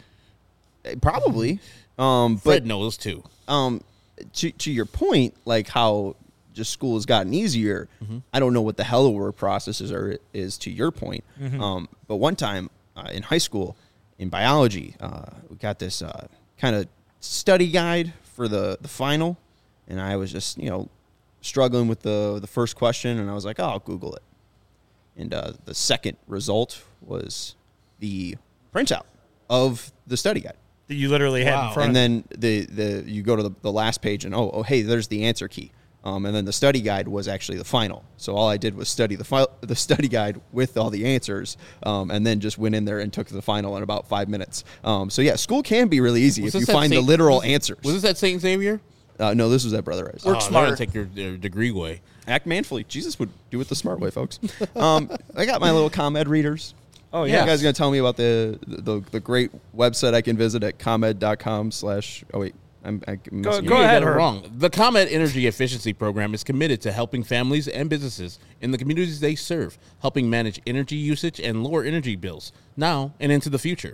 probably. Um, Fred but knows, too. um, to, to your point, like how just school has gotten easier, Mm-hmm. I don't know what the hell a word processor are, is to your point. Mm-hmm. Um, but one time uh, in high school, in biology, uh, we got this uh, kind of study guide for the, the final, and I was just, you know, struggling with the the first question, and I was like, oh, I'll Google it. And uh, the second result was the printout of the study guide. That you literally had Wow. in front And of then the, the you go to the, the last page, and, oh, oh, hey, there's the answer key. Um, and then the study guide was actually the final. So all I did was study the fi- the study guide with all the answers, um, and then just went in there and took the final in about five minutes. Um, so, yeah, school can be really easy Was if you this at find the Saint- literal was- answers. Was this at Saint Xavier? Uh, no, this was at Brother Rice. Oh, they're smarter. gonna take your, their degree away. Act manfully. Jesus would do it the smart way, folks. Um, I got my little ComEd readers. Oh, You yeah. guys going to tell me about the, the the great website I can visit at comed.com slash, oh, wait. I'm, I'm messing Go you You up. ahead, got it Herb. wrong. The ComEd Energy Efficiency Program is committed to helping families and businesses in the communities they serve, helping manage energy usage and lower energy bills now and into the future.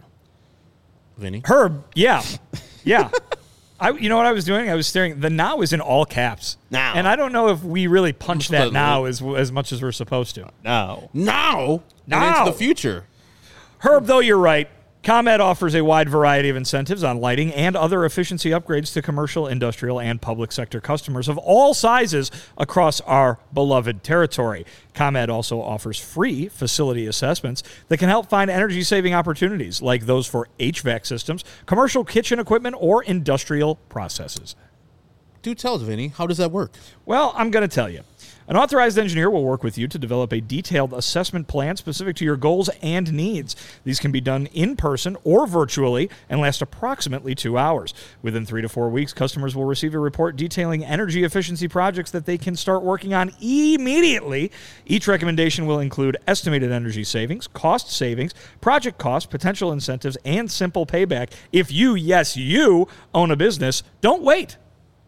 Vinny? Herb, yeah. Yeah. I, you know what I was doing? I was staring. The now is in all caps. Now. And I don't know if we really punch that Look. now as as much as we're supposed to. No. Now, Now. and into the future. Herb, though you're right, ComEd offers a wide variety of incentives on lighting and other efficiency upgrades to commercial, industrial, and public sector customers of all sizes across our beloved territory. ComEd also offers free facility assessments that can help find energy-saving opportunities like those for H V A C systems, commercial kitchen equipment, or industrial processes. Do tell us, Vinny, how does that work? Well, I'm going to tell you. An authorized engineer will work with you to develop a detailed assessment plan specific to your goals and needs. These can be done in person or virtually and last approximately two hours. Within three to four weeks, customers will receive a report detailing energy efficiency projects that they can start working on immediately. Each recommendation will include estimated energy savings, cost savings, project costs, potential incentives, and simple payback. If you, yes, you, own a business, don't wait.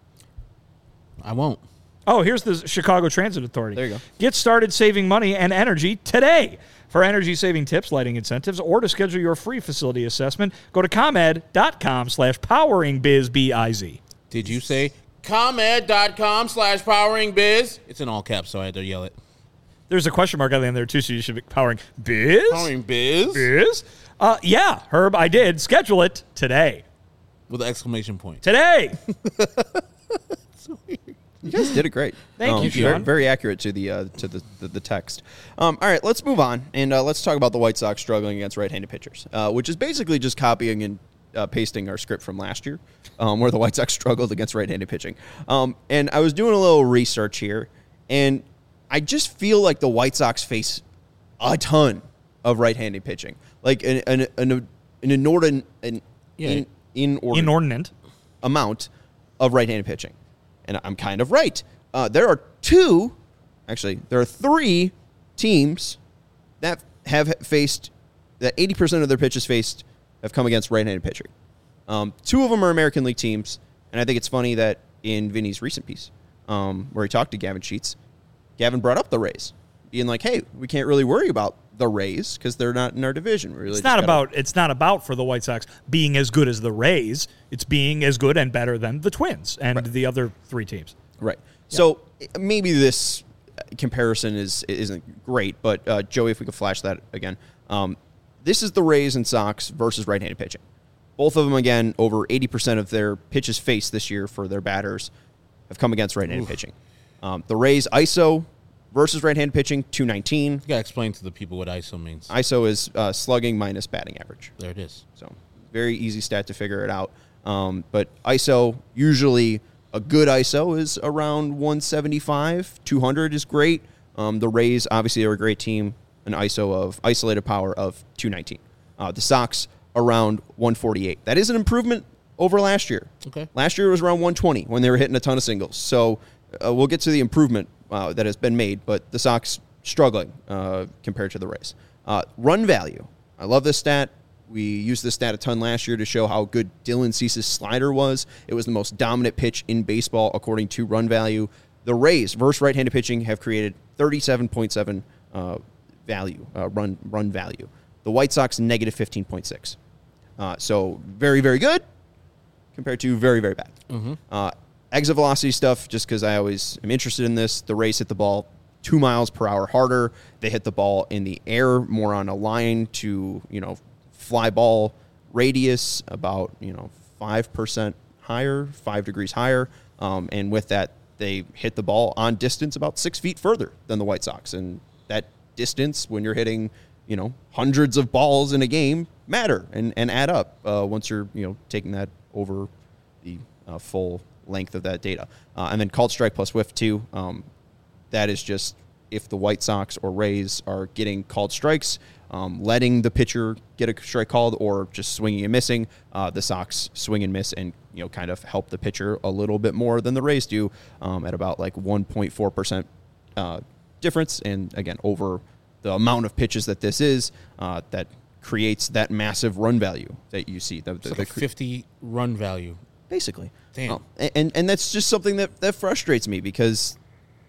I won't. Oh, here's the Chicago Transit Authority. There you go. Get started saving money and energy today. For energy-saving tips, lighting incentives, or to schedule your free facility assessment, go to ComEd.com slash poweringbiz, B I Z. Did you say ComEd.com slash powering biz? It's in all caps, so I had to yell it. There's a question mark on the end there, too, so you should be powering biz? Powering biz? Biz? Uh, yeah, Herb, I did. Schedule it today. With an exclamation point. Today! You guys did it great. Thank Um, you, very, Sean. very accurate to the uh, to the, the, the text. Um, all right, let's move on, and uh, let's talk about the White Sox struggling against right-handed pitchers, uh, which is basically just copying and uh, pasting our script from last year, um, where the White Sox struggled against right-handed pitching. Um, and I was doing a little research here, and I just feel like the White Sox face a ton of right-handed pitching, like an an an, an inordinate an Yeah. in, inordinate Inordinate. amount of right-handed pitching. And I'm kind of right. Uh, there are two, actually, there are three teams that have faced, that eighty percent of their pitches faced have come against right-handed pitching. Um, two of them are American League teams, and I think it's funny that in Vinny's recent piece, um, where he talked to Gavin Sheets, Gavin brought up the Rays, being like, hey, we can't really worry about the Rays because they're not in our division. We really It's just not gotta- about it's not about for the White Sox being as good as the Rays. It's being as good and better than the Twins and the other three teams. Right. So maybe this comparison is isn't great, but uh, Joey, if we could flash that again, um, this is the Rays and Sox versus right-handed pitching. Both of them, again, over eighty percent of their pitches faced this year for their batters have come against right-handed Oof. pitching. Um, the Rays I S O versus right-handed pitching, two nineteen. You got to explain to the people what I S O means. I S O is uh, slugging minus batting average. there it is. So very easy stat to figure it out. Um, but I S O, usually a good I S O is around one seventy-five. two hundred is great. Um, the Rays, obviously, are a great team. An I S O of isolated power of two nineteen. Uh, the Sox around one forty-eight. That is an improvement over last year. Okay. Last year it was around one twenty when they were hitting a ton of singles. So uh, we'll get to the improvement uh, that has been made, but the Sox struggling uh, compared to the Rays. Uh, run value. I love this stat. We used this stat a ton last year to show how good Dylan Cease's slider was. It was the most dominant pitch in baseball according to run value. The Rays versus right-handed pitching have created thirty-seven point seven uh, value, uh, run run value. The White Sox, negative fifteen point six. Uh, so very, very good compared to very, very bad. Mm-hmm. Uh, exit velocity stuff, just because I always am interested in this. The Rays hit the ball two miles per hour harder. They hit the ball in the air, more on a line to, you know, fly ball radius, about, you know, five percent higher, five degrees higher. Um, and with that, they hit the ball on distance about six feet further than the White Sox. And that distance, when you're hitting, you know, hundreds of balls in a game, matter and, and add up uh, once you're, you know, taking that over the uh, full length of that data. Uh, and then called strike plus whiff too. Um, that is just if the White Sox or Rays are getting called strikes, um, letting the pitcher get a strike called or just swinging and missing, uh, the Sox swing and miss and, you know, kind of help the pitcher a little bit more than the Rays do um, at about like one point four percent uh, difference. And again, over the amount of pitches that this is, uh, that creates that massive run value that you see. The, the, It's like the, a fifty run value. Basically. Damn. Um, and, and that's just something that, that frustrates me because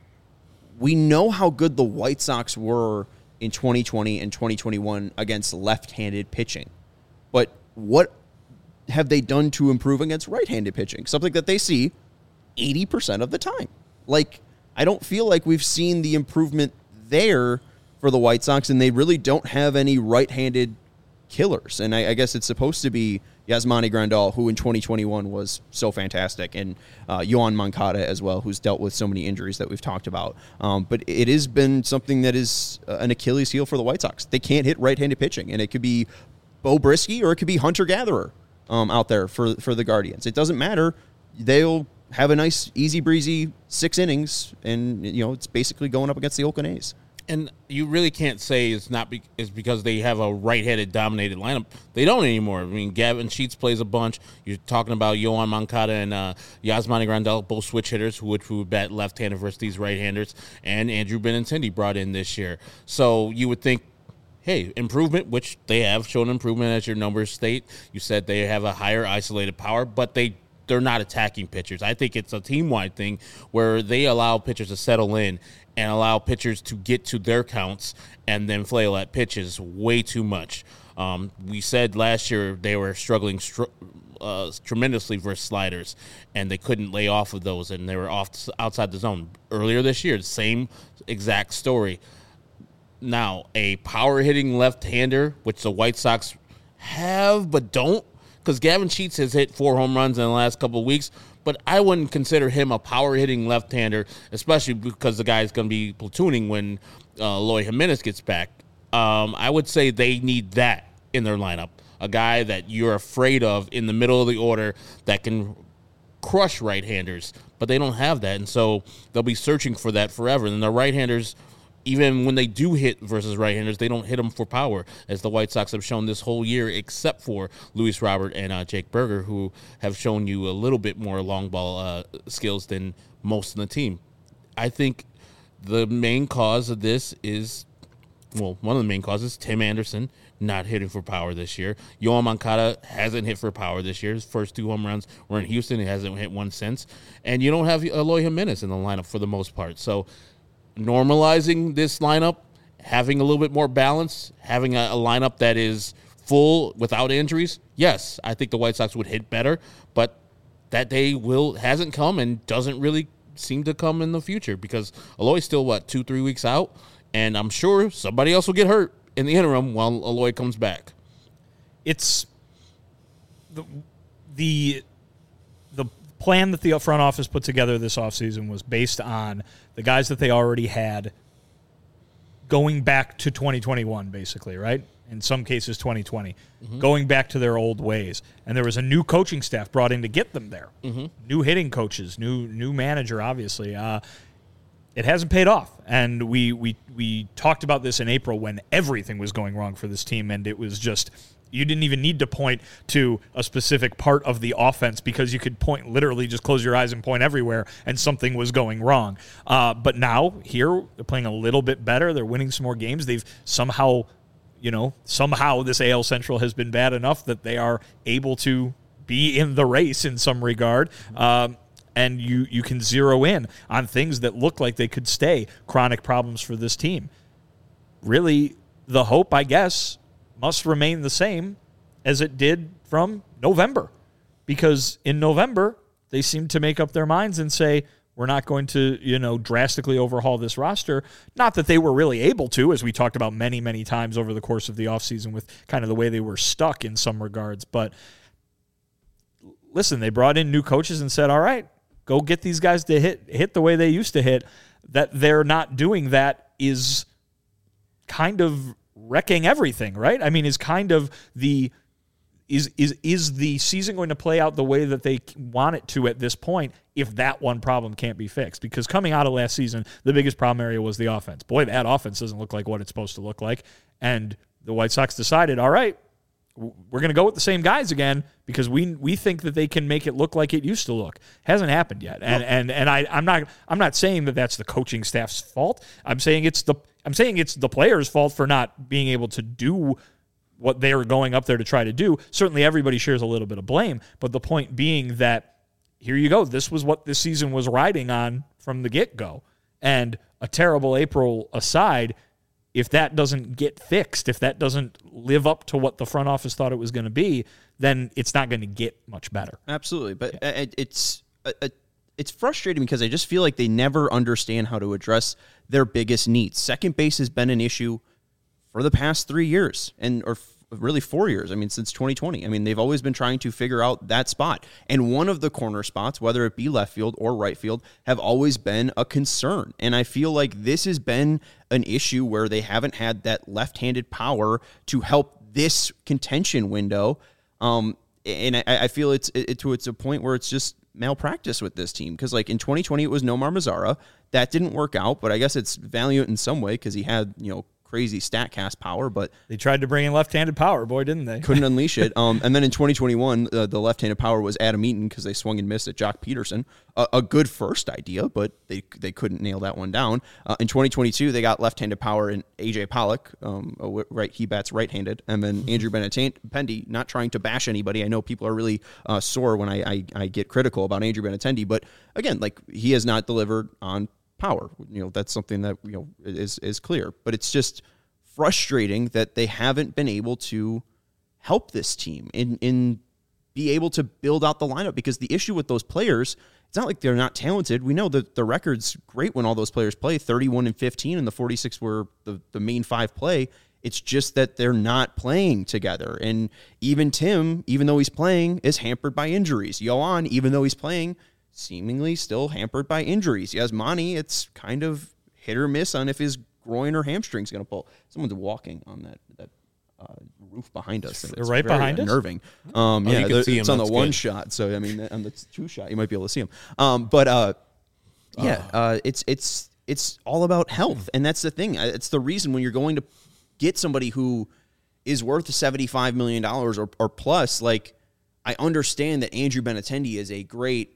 we know how good the White Sox were in twenty twenty and twenty twenty-one against left-handed pitching. But what have they done to improve against right-handed pitching? Something that they see eighty percent of the time. Like, I don't feel like we've seen the improvement there for the White Sox, and they really don't have any right-handed killers. And I, I guess it's supposed to be Yasmani Grandal, who in twenty twenty-one was so fantastic, and uh, Yoan Moncada as well, who's dealt with so many injuries that we've talked about. Um, but it has been something that is uh, an Achilles heel for the White Sox. They can't hit right-handed pitching, and it could be Bo Brisky or it could be Hunter Gatherer um, out there for, for the Guardians. It doesn't matter. They'll have a nice, easy-breezy six innings, and you know it's basically going up against the Oakland A's. And you really can't say it's not be, it's because they have a right-handed dominated lineup. They don't anymore. I mean, Gavin Sheets plays a bunch. You're talking about Yoan Moncada and uh, Yasmani Grandal, both switch hitters, who would, who would bat left-handed versus these right-handers. And Andrew Benintendi brought in this year. So you would think, hey, improvement, which they have shown improvement as your numbers state. You said they have a higher isolated power, but they they're not attacking pitchers. I think it's a team-wide thing where they allow pitchers to settle in and allow pitchers to get to their counts and then flail at pitches way too much. Um, we said last year they were struggling str- uh, tremendously versus sliders, and they couldn't lay off of those, and they were off outside the zone. Earlier this year, the same exact story. Now, a power-hitting left-hander, which the White Sox have but don't, because Gavin Sheets has hit four home runs in the last couple of weeks, but I wouldn't consider him a power-hitting left-hander, especially because the guy's going to be platooning when uh, Eloy Jimenez gets back. Um, I would say they need that in their lineup, a guy that you're afraid of in the middle of the order that can crush right-handers, but they don't have that, and so they'll be searching for that forever. And the right-handers, even when they do hit versus right-handers, they don't hit them for power, as the White Sox have shown this whole year, except for Luis Robert and uh, Jake Berger, who have shown you a little bit more long ball uh, skills than most of the team. I think the main cause of this is, well, one of the main causes, Tim Anderson not hitting for power this year. Yoan Moncada hasn't hit for power this year. His first two home runs were in Houston. He hasn't hit one since. And you don't have Eloy Jimenez in the lineup for the most part. So normalizing this lineup, having a little bit more balance, having a, a lineup that is full without injuries, yes, I think the White Sox would hit better, but that day will hasn't come and doesn't really seem to come in the future because Eloy's still, what, two, three weeks out, and I'm sure somebody else will get hurt in the interim while Eloy comes back. It's the the the plan that the front office put together this offseason was based on the guys that they already had going back to twenty twenty-one, basically, right? In some cases, twenty twenty, mm-hmm. going back to their old ways. And there was a new coaching staff brought in to get them there. Mm-hmm. New hitting coaches, new new manager, obviously. Uh, it hasn't paid off. And we, we, we talked about this in April when everything was going wrong for this team, and it was just, you didn't even need to point to a specific part of the offense because you could point, literally just close your eyes and point everywhere, and something was going wrong. Uh, but now, here, they're playing a little bit better. They're winning some more games. They've somehow, you know, somehow this A L Central has been bad enough that they are able to be in the race in some regard. Um, and you, you can zero in on things that look like they could stay chronic problems for this team. Really, the hope, I guess, must remain the same as it did from November. Because in November, they seemed to make up their minds and say, we're not going to, you know, drastically overhaul this roster. Not that they were really able to, as we talked about many, many times over the course of the offseason with kind of the way they were stuck in some regards. But listen, they brought in new coaches and said, all right, go get these guys to hit hit the way they used to hit. That they're not doing that is kind of wrecking everything, right? I mean, is kind of the is is is the season going to play out the way that they want it to at this point if that one problem can't be fixed? Because coming out of last season, the biggest problem area was the offense. Boy, that offense doesn't look like what it's supposed to look like. And the White Sox decided, all right, we're going to go with the same guys again because we we think that they can make it look like it used to look. Hasn't happened yet, and well, and and I I'm not I'm not saying that that's the coaching staff's fault. I'm saying it's the I'm saying it's the players' fault for not being able to do what they were going up there to try to do. Certainly, everybody shares a little bit of blame, but the point being that here you go. This was what this season was riding on from the get go, and a terrible April aside. If that doesn't get fixed, if that doesn't live up to what the front office thought it was going to be, then it's not going to get much better. Absolutely, but yeah. it's it's frustrating because I just feel like they never understand how to address their biggest needs. Second base has been an issue for the past three years, and or really four years. I mean, since twenty twenty. I mean, they've always been trying to figure out that spot. And one of the corner spots, whether it be left field or right field, have always been a concern. And I feel like this has been an issue where they haven't had that left-handed power to help this contention window. Um, and I, I feel it's it, to it's a point where it's just malpractice with this team. Because like in twenty twenty, it was Nomar Mazara. That didn't work out, but I guess it's valiant in some way because he had, you know, crazy StatCast power, but they tried to bring in left-handed power, boy, didn't they? Couldn't unleash it. Um, and then in twenty twenty-one, uh, the left-handed power was Adam Eaton because they swung and missed at Jock Peterson. Uh, a good first idea, but they they couldn't nail that one down. Uh, in twenty twenty-two, they got left-handed power in A J Pollock. Um, right, he bats right-handed, and then Andrew Benintendi. Not trying to bash anybody. I know people are really uh, sore when I, I I get critical about Andrew Benintendi, but again, like he has not delivered on power. You know, that's something that you know is is clear, but it's just frustrating that they haven't been able to help this team in in be able to build out the lineup, because the issue with those players, it's not like they're not talented. We know that the record's great when all those players play, thirty-one and fifteen, and the forty-six were the, the main five play. It's just that they're not playing together. And even Tim, even though he's playing, is hampered by injuries. Yohan, even though he's playing, seemingly still hampered by injuries. Yasmani, it's kind of hit or miss on if his groin or hamstring's going to pull. Someone's walking on that that uh, roof behind us. And They're it's right very behind unnerving. us? Um, Oh, yeah, you can the, see it's him. on the That's one good. shot. So, I mean, on the two shot, you might be able to see him. Um, but, uh, yeah, uh, it's it's it's all about health. And that's the thing. It's the reason when you're going to get somebody who is worth seventy-five million dollars or, or plus, like, I understand that Andrew Benintendi is a great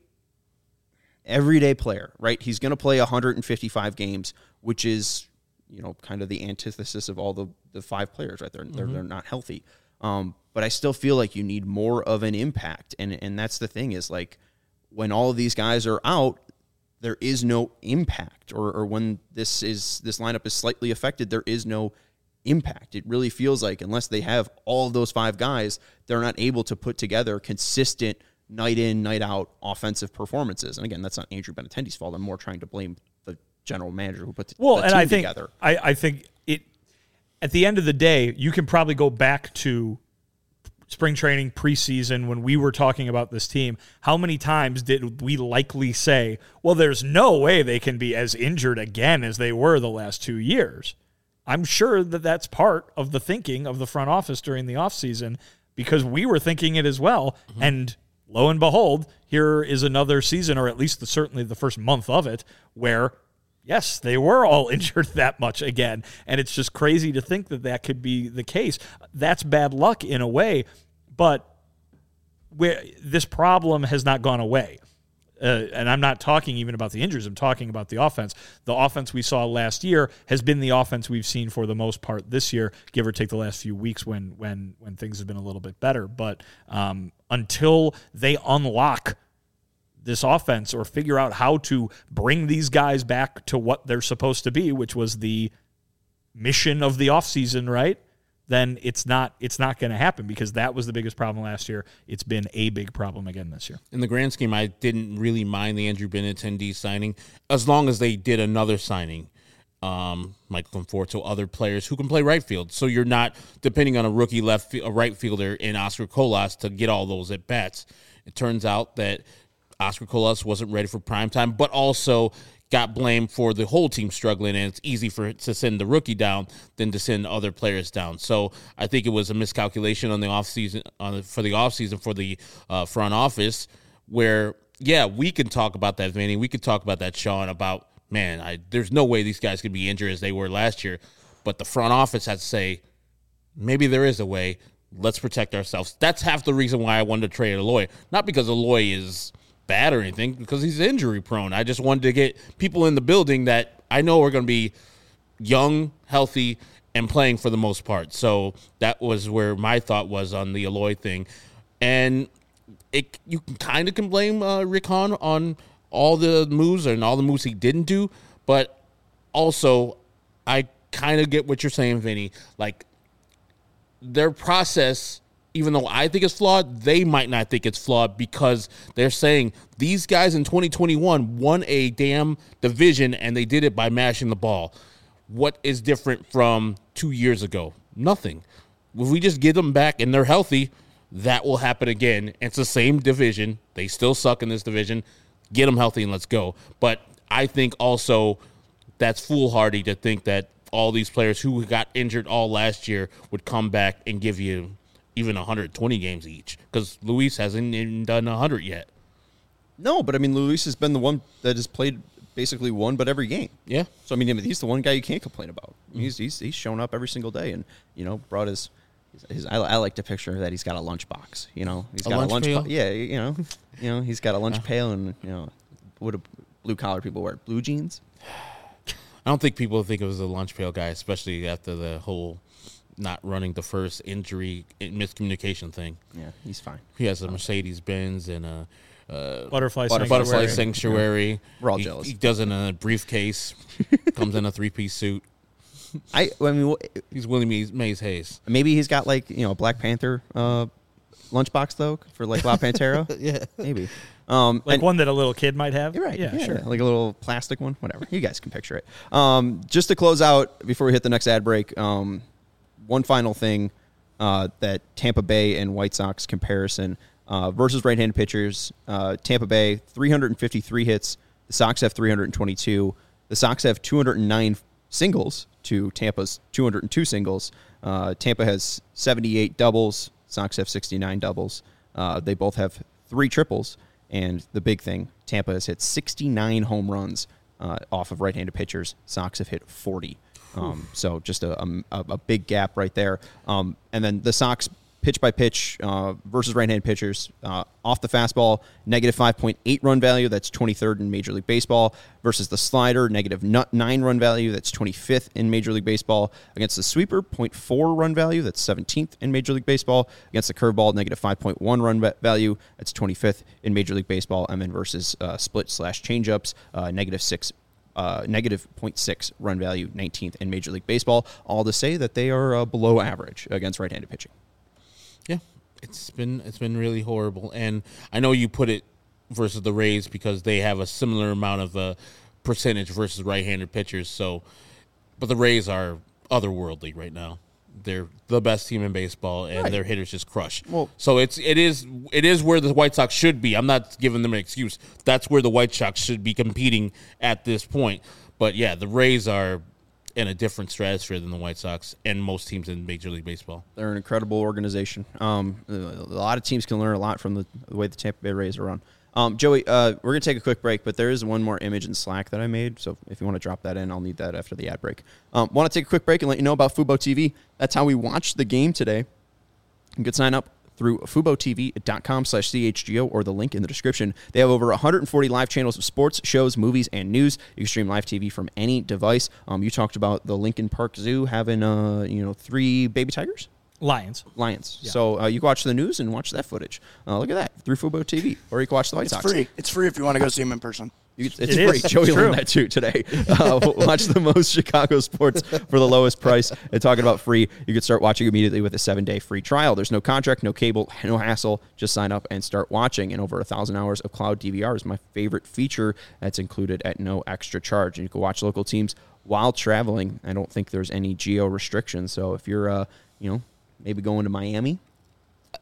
everyday player, right? He's going to play one hundred fifty-five games, which is, you know, kind of the antithesis of all the, the five players, right? They're, mm-hmm. they're, they're not healthy. Um, but I still feel like you need more of an impact. And, and that's the thing is, like, when all of these guys are out, there is no impact. Or, or when this is this lineup is slightly affected, there is no impact. It really feels like unless they have all of those five guys, they're not able to put together consistent night in, night out offensive performances. And again, that's not Andrew Benintendi's fault. I'm more trying to blame the general manager who put the, well, the and team I think, together. I, I think it, at the end of the day, you can probably go back to spring training, preseason, when we were talking about this team. How many times did we likely say, well, there's no way they can be as injured again as they were the last two years? I'm sure that that's part of the thinking of the front office during the offseason, because we were thinking it as well. Mm-hmm. And lo and behold, here is another season, or at least the, certainly the first month of it, where, yes, they were all injured that much again. And it's just crazy to think that that could be the case. That's bad luck in a way, but where this problem has not gone away. Uh, and I'm not talking even about the injuries. I'm talking about the offense. The offense we saw last year has been the offense we've seen for the most part this year, give or take the last few weeks when when when things have been a little bit better. But um, until they unlock this offense or figure out how to bring these guys back to what they're supposed to be, which was the mission of the offseason, right? Then it's not it's not going to happen, because that was the biggest problem last year. It's been a big problem again this year. In the grand scheme, I didn't really mind the Andrew Benintendi signing, as long as they did another signing, um, Michael Conforto, other players who can play right field. So you're not depending on a rookie left, a right fielder in Oscar Colas to get all those at bats. It turns out that Oscar Colas wasn't ready for prime time, but also got blamed for the whole team struggling, and it's easy for it to send the rookie down than to send other players down. So I think it was a miscalculation on the offseason, on the, for the offseason for the uh, front office, where, yeah, we can talk about that, Vinny. We could talk about that, Sean, about, man, I, there's no way these guys could be injured as they were last year. But the front office had to say, maybe there is a way. Let's protect ourselves. That's half the reason why I wanted to trade Eloy. Not because Eloy is bad or anything, because he's injury prone. I just wanted to get people in the building that I know are going to be young, healthy, and playing for the most part. So that was where my thought was on the Eloy thing. And it you can kind of can blame uh, Rick Hahn on all the moves and all the moves he didn't do, but also I kind of get what you're saying, Vinny. Like, their process, even though I think it's flawed, they might not think it's flawed because they're saying these guys in twenty twenty-one won a damn division and they did it by mashing the ball. What is different from two years ago? Nothing. If we just get them back and they're healthy, that will happen again. It's the same division. They still suck in this division. Get them healthy and let's go. But I think also that's foolhardy to think that all these players who got injured all last year would come back and give you even one hundred twenty games each, because Luis hasn't even done one hundred yet. No, but I mean, Luis has been the one that has played basically one but every game. Yeah. So I mean, he's the one guy you can't complain about. He's he's he's shown up every single day, and you know, brought his. his I, I like to picture that he's got a lunch box. You know, he's A got lunch a lunch. pail? Po- yeah, you know, you know, he's got a lunch pail, and you know, what do blue collar people wear? Blue jeans. I don't think people think of him as a lunch pail guy, especially after the whole not running the first injury miscommunication thing. Yeah, he's fine. He has a Mercedes Benz and a uh, Butterfly, Butterfly butterfly sanctuary. sanctuary. We're all he, jealous. He does it in a briefcase, comes in a three piece suit. I I mean, He's Willie Mays, Mays Hayes. maybe he's got like you know a Black Panther uh, lunchbox though for like La Pantera. Yeah. Maybe. Um, Like and- one that a little kid might have. You're right. Yeah, sure. Like a little plastic one, whatever. You guys can picture it. Um, just to close out before we hit the next ad break, um, one final thing uh, that Tampa Bay and White Sox comparison uh, versus right-handed pitchers. Uh, Tampa Bay, three hundred fifty-three hits. The Sox have three hundred twenty-two. The Sox have two hundred nine singles to Tampa's two hundred two singles. Uh, Tampa has seventy-eight doubles. Sox have sixty-nine doubles. Uh, they both have three triples. And the big thing, Tampa has hit sixty-nine home runs uh, off of right-handed pitchers. Sox have hit forty. Um, so just a, a, a big gap right there. Um, and then the Sox pitch by pitch uh, versus right-handed pitchers uh, off the fastball, negative five point eight run value. That's twenty-third in Major League Baseball versus the slider, negative nine run value. That's twenty-fifth in Major League Baseball. Against the sweeper, zero point four run value. That's seventeenth in Major League Baseball. Against the curveball, negative five point one run value. That's twenty-fifth in Major League Baseball. And then versus uh, split slash changeups, uh, negative six. Uh, negative zero point six run value, nineteenth in Major League Baseball. All to say that they are uh, below average against right-handed pitching. Yeah, it's been it's been really horrible, and I know you put it versus the Rays because they have a similar amount of uh, percentage versus right-handed pitchers. So, but the Rays are otherworldly right now. They're the best team in baseball, and Right. their hitters just crush. Well- so it's it is it is where the White Sox should be. I'm not giving them an excuse. That's where the White Sox should be competing at this point. But yeah, the Rays are in a different stratosphere than the White Sox and most teams in Major League Baseball. They're an incredible organization. Um, a lot of teams can learn a lot from the, the way the Tampa Bay Rays are run. Um, Joey, uh, we're going to take a quick break, but there is one more image in Slack that I made. So if you want to drop that in, I'll need that after the ad break. Um, want to take a quick break and let you know about Fubo T V. That's how we watched the game today. You can sign up through FuboTV.com slash CHGO or the link in the description. They have over one hundred forty live channels of sports, shows, movies, and news. You can stream live T V from any device. Um, you talked about the Lincoln Park Zoo having, uh, you know, three baby tigers? Lions. Lions. So uh, you can watch the news and watch that footage. Uh, look at that through Fubo T V, or you can watch the White It's Sox. free. It's free if you want to go see him in person. You, it's It free. is. Joey It's learned true. that too today. Uh, watch the most Chicago sports for the lowest price. And talking about free, you can start watching immediately with a seven-day free trial. There's no contract, no cable, no hassle. Just sign up and start watching. And over a thousand hours of cloud D V R is my favorite feature that's included at no extra charge. And you can watch local teams while traveling. I don't think there's any geo restrictions. So if you're, uh, you know, maybe going to Miami,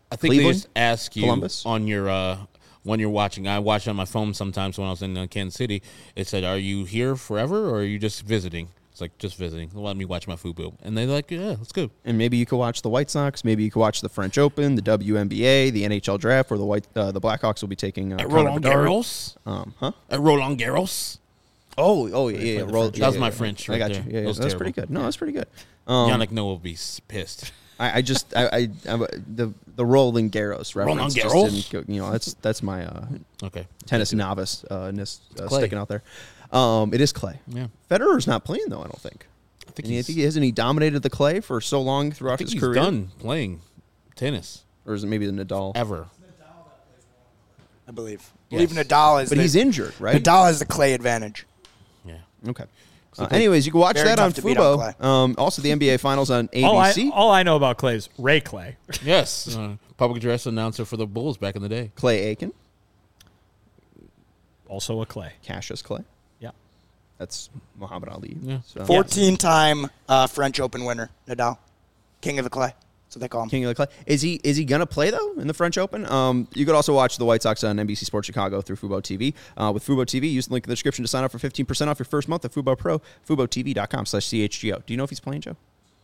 I think Cleveland? they just ask you Columbus? on your uh, when you're watching. I watch on my phone sometimes when I was in uh, Kansas City. It said, "Are you here forever, or are you just visiting?" It's like just visiting. Let me watch my FUBO, and they're like, "Yeah, let's go." And maybe you could watch the White Sox. Maybe you could watch the French Open, the W N B A, the N H L draft, where the White uh, the Blackhawks will be taking uh, At Connor Roland Bedard. Garros. Um, huh? At Roland Garros. Oh, oh yeah, yeah. yeah. Roll, That yeah, was yeah, my yeah. French I right got there. you. Yeah, That yeah. was That's terrible. pretty good. No, that's pretty good. Um, Yannick Noah will be s- pissed. I, I just I, I, I the the Roland Garros reference. Roland just Garros? didn't go- you know, that's that's my uh, Okay. tennis novice uh, ness, uh, Clay. sticking out there. Um, it is clay. Yeah. Federer's not playing though. I don't think. I think And I he's, think he hasn't he dominated the clay for so long I throughout think his he's career. done playing tennis Or is it maybe the Nadal? ever. I believe. I Yes. believe Nadal is But the, he's injured, right? Nadal has the clay advantage. Yeah. Okay. Uh, anyways, you can watch Very that on tough to beat on Fubo. Um, also, the N B A Finals on A All I, B C. all I know about Clay is Ray Clay. Yes. Uh, public address announcer for the Bulls back in the day. Clay Aiken, Also a Clay. Cassius Clay. Yeah. That's Muhammad Ali. Yeah. So. fourteen-time uh, French Open winner, Nadal. King of the clay. That's what they call him. King of the Clay. Is he is he gonna play though in the French Open? Um, you could also watch the White Sox on N B C Sports Chicago through Fubo T V. Uh, with Fubo T V, use the link in the description to sign up for fifteen percent off your first month at Fubo Pro. FuboTV.com slash CHGO. Do you know if he's playing, Joe?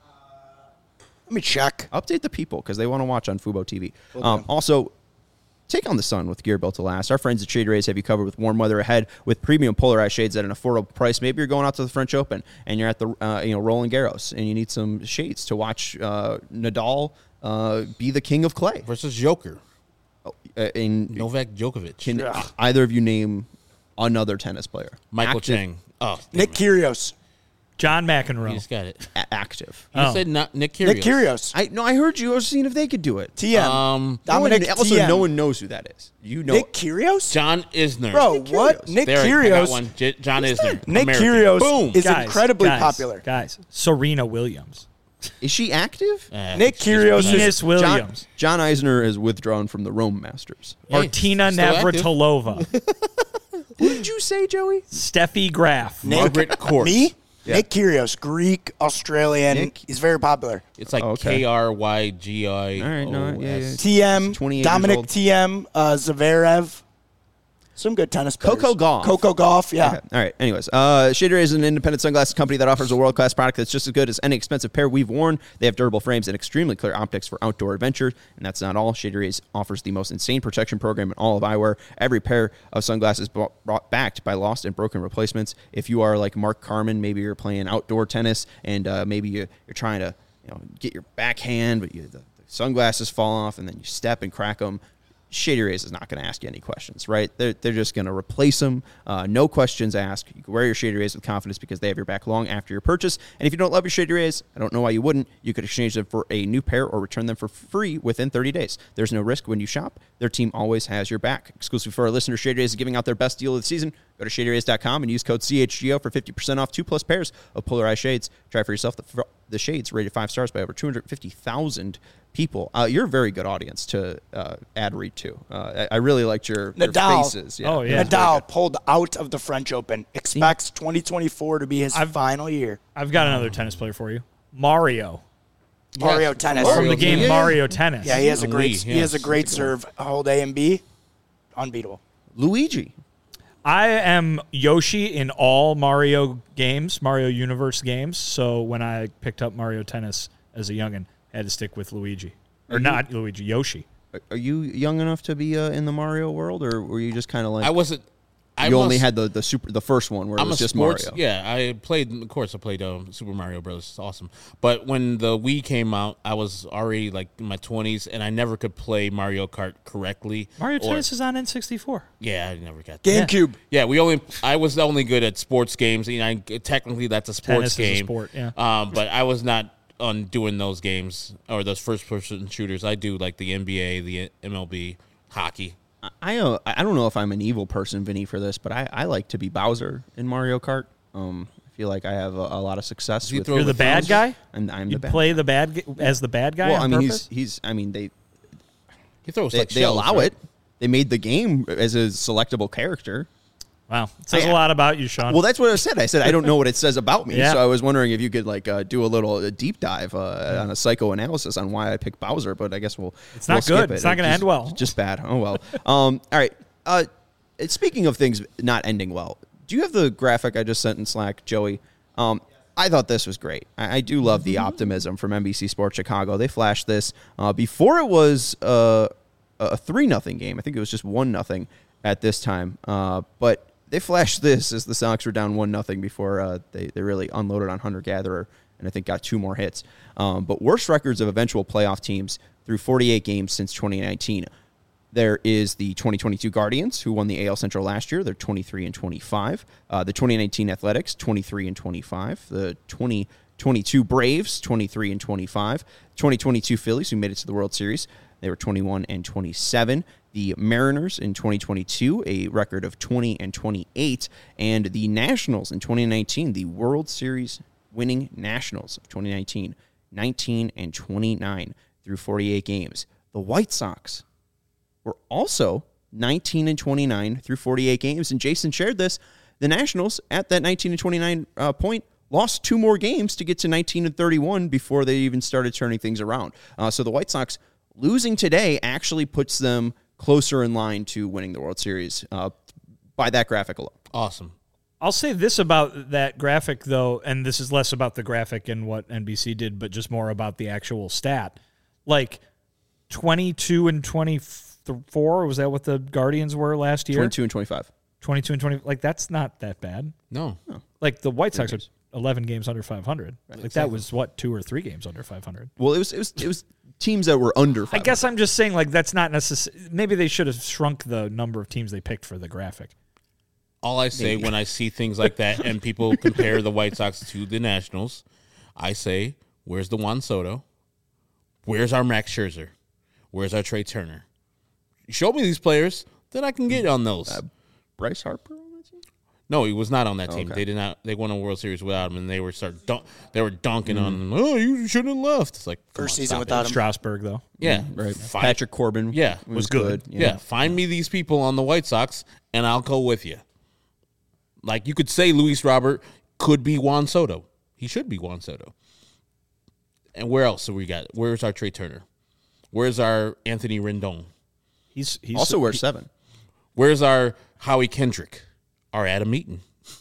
Let me check. Update the people because they want to watch on Fubo T V. Will Um, do. also, take on the sun with gear built to last. Our friends at Shade Rays have you covered with warm weather ahead with premium polarized shades at an affordable price. Maybe you're going out to the French Open and you're at the uh, you know Roland Garros and you need some shades to watch uh, Nadal uh, be the king of clay. Versus Joker. Uh, in, Novak Djokovic. can Ugh. either of you name another tennis player? Michael active, Chang. Oh, Nick Kyrgios. John You McEnroe. just got it. a- active. You Oh. said not Nick Kyrgios. Nick Kyrgios. I no, I heard you. I was seeing if they could do it. T M. Um, No one, Dominic also, T M. no one knows who that is. You know, Nick Kyrgios? John Isner. Bro, Nick what? Kyrgios. Nick There, I got Kyrgios. one. J- John Isner. Nick American. Kyrgios Boom. is Guys, incredibly guys, popular. Guys, Serena Williams. is she active? Uh, Nick she's just Kyrgios beside- Venus John, Williams. John Eisner is withdrawn from the Rome Masters. Hey, Martina still active. Navratilova. Who did you say, Joey? Steffi Graf. Nick- Margaret Court. Me? Yeah. Nick Kyrgios, Greek, Australian. Nick- He's very popular. It's like Oh, okay. K R Y G I. All right, no, yeah, yeah. T M, twenty-eight years Dominic old. T M, uh, Zverev. Some good tennis players. Coco Gauff. Coco Golf, yeah. Okay. All right. Anyways, uh, Shade Rays is an independent sunglasses company that offers a world-class product that's just as good as any expensive pair we've worn. They have durable frames and extremely clear optics for outdoor adventures. And that's not all. Shade Rays offers the most insane protection program in all of eyewear. Every pair of sunglasses brought, brought backed by lost and broken replacements. If you are like Mark Carman, maybe you're playing outdoor tennis and uh, maybe you, you're trying to you know get your backhand, but you, the, the sunglasses fall off and then you step and crack them. Shady Rays is not going to ask you any questions, right? They're, they're just going to replace them. Uh, no questions asked. You can wear your Shady Rays with confidence because they have your back long after your purchase. And if you don't love your Shady Rays, I don't know why you wouldn't. You could exchange them for a new pair or return them for free within thirty days. There's no risk when you shop. Their team always has your back. Exclusive for our listeners, Shady Rays is giving out their best deal of the season. Go to shady rays dot com and use code C H G O for fifty percent off two plus pairs of polarized shades. Try for yourself the, the shades rated five stars by over two hundred fifty thousand people. Uh, you're a very good audience to uh, ad read to. Uh, I, I really liked your, your Nadal. faces. Oh, yeah. Nadal pulled out of the French Open. Expects twenty twenty-four to be his I've- final year. I've got another tennis player for you. Mario. Mario Yes, tennis. Mario From the game Yeah. Mario Tennis. Yeah, he has a And great. Wii, he has a yes, great that's a good serve. Hold A and B, unbeatable. Luigi. I am Yoshi in all Mario games, Mario Universe games. So when I picked up Mario Tennis as a youngin', I had to stick with Luigi. Or not Luigi, Yoshi. Are- Are you young enough to be uh, in the Mario world, or were you just kind of like I wasn't. I you only must- had the, the super the first one where it I'm was a just sports. Mario? Yeah, I played. Of course, I played um, Super Mario Bros. It's awesome. But when the Wii came out, I was already like in my twenties, and I never could play Mario Kart correctly. Mario or- Tennis is on N sixty-four. Yeah, I never got that. GameCube. Yeah, we only. I was only good at sports games. You know, I, technically that's a sports Tennis is a game. sport, yeah. Um, but I was not on doing those games or those first-person shooters. I do like the N B A, the M L B, hockey. I uh, I don't know if I'm an evil person, Vinny, for this, but I, I like to be Bowser in Mario Kart. Um, I feel like I have a, a lot of success you with. throw You're the the bad thumbs? guy? I'm, I'm You the bad. play the bad g- as the bad guy Well, I on mean, purpose? he's he's. I mean, they He throws they, like they shells, allow right? it. They made the game as a selectable character. Wow. It says I- a lot about you, Sean. Well, that's what I said. I said I don't know what it says about me, Yeah. so I was wondering if you could like uh, do a little a deep dive uh, on a psychoanalysis on why I picked Bowser. But I guess we'll It's we'll not skip good. it. It's not gonna Just- end well. Just bad. Oh well. um. All right. Uh, speaking of things not ending well, do you have the graphic I just sent in Slack, Joey? Um. I thought this was great. I, I do love the optimism from N B C Sports Chicago. They flashed this uh, before it was uh, a three nothing game. I think it was just one nothing at this time. Uh, but they flashed this as the Sox were down one nothing before uh, they, they really unloaded on Hunter Gatherer and I think got two more hits. Um, but worst records of eventual playoff teams through forty-eight games since twenty nineteen. There is the twenty twenty-two Guardians, who won the A L Central last year. They're twenty-three and twenty-five. Uh, the twenty nineteen Athletics, twenty-three and twenty-five. The twenty twenty-two Braves, twenty-three and twenty-five. twenty twenty-two Phillies, who made it to the World Series, they were twenty-one and twenty-seven. The Mariners in twenty twenty-two, a record of twenty and twenty-eight. And the Nationals in twenty nineteen, the World Series winning Nationals of twenty nineteen, nineteen and twenty-nine through forty-eight games. The White Sox were also nineteen and twenty-nine through forty-eight games. And Jason shared this. The Nationals, at that nineteen and twenty-nine uh, point, lost two more games to get to nineteen and thirty-one before they even started turning things around. Uh, so the White Sox losing today actually puts them closer in line to winning the World Series uh, by that graphic alone. Awesome. I'll say this about that graphic, though, and this is less about the graphic and what N B C did, but just more about the actual stat. Like, twenty-two and twenty-four, was that what the Guardians were last year? twenty-two and twenty-five. twenty-two and twenty, like, that's not that bad. No. Like, the White Sox are eleven games under five hundred. Like, that exactly. was, what, two or three games under five hundred? Well, it was it was it was teams that were under five I hundred. guess I'm just saying, like, that's not necessary. Maybe they should have shrunk the number of teams they picked for the graphic. All I say when I see things like that and people compare the White Sox to the Nationals, I say, where's the Juan Soto? Where's our Max Scherzer? Where's our Trey Turner? Show me these players, then I can get on those. Uh, Bryce Harper on that team? No, he was not on that team. Okay. They did not. They won a World Series without him, and they were start. Dunk, they were dunking on him. Oh, you shouldn't have left. It's like come First on, season stop without it. him. Strasburg, though. Yeah, Right. Fine. Patrick Corbin Yeah, was, was good. Yeah. find me these people on the White Sox, and I'll go with you. Like you could say, Luis Robert could be Juan Soto. He should be Juan Soto. And where else do we got? Where's our Trey Turner? Where's our Anthony Rendon? He's, he's Also wears seven. Where's our Howie Kendrick? Our Adam Eaton.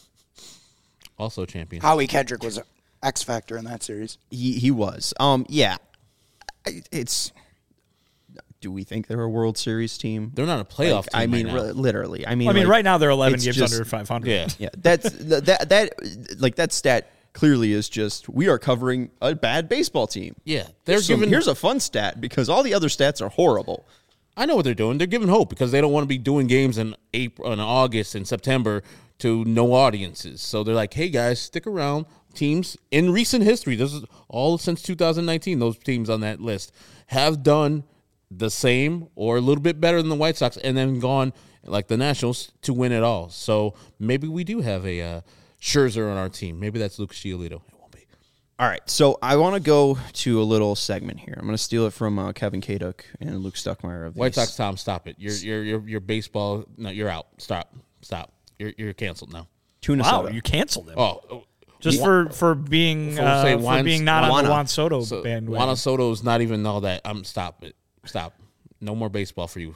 Also champion. Howie Kendrick was an X factor in that series. He he was. Um. Yeah. I- It's. Do we think they're a World Series team? They're not a playoff Like, team. I mean, right now. re- literally. I mean, I mean, like, right now they're eleven it's games just- under five hundred. Yeah. Yeah, that's th- that that like that stat clearly is just we are covering a bad baseball team. Yeah, they're Here's some- giving. here's a fun stat because all the other stats are horrible. I know what they're doing. They're giving hope because they don't want to be doing games in April, in August, and September to no audiences. So they're like, "Hey guys, stick around." Teams in recent history, this is all since two thousand nineteen. Those teams on that list have done the same or a little bit better than the White Sox, and then gone like the Nationals to win it all. So maybe we do have a uh, Scherzer on our team. Maybe that's Luke Giolito. It won't be. All right, so I want to go to a little segment here. I'm going to steal it from uh, Kevin Kaduk and Luke Stuckmeyer of the White Sox, Tom, stop it. You're you're you're, you're baseball. No, you're out. Stop. Stop. You're you're canceled now. Tuna Wow, soda. you canceled him. Oh. Just for, for being For, uh, say, for Juan- being not on Juana. the Juan Soto So, bandwagon. Juan Soto is not even all that. I'm stop it. Stop. No more baseball for you.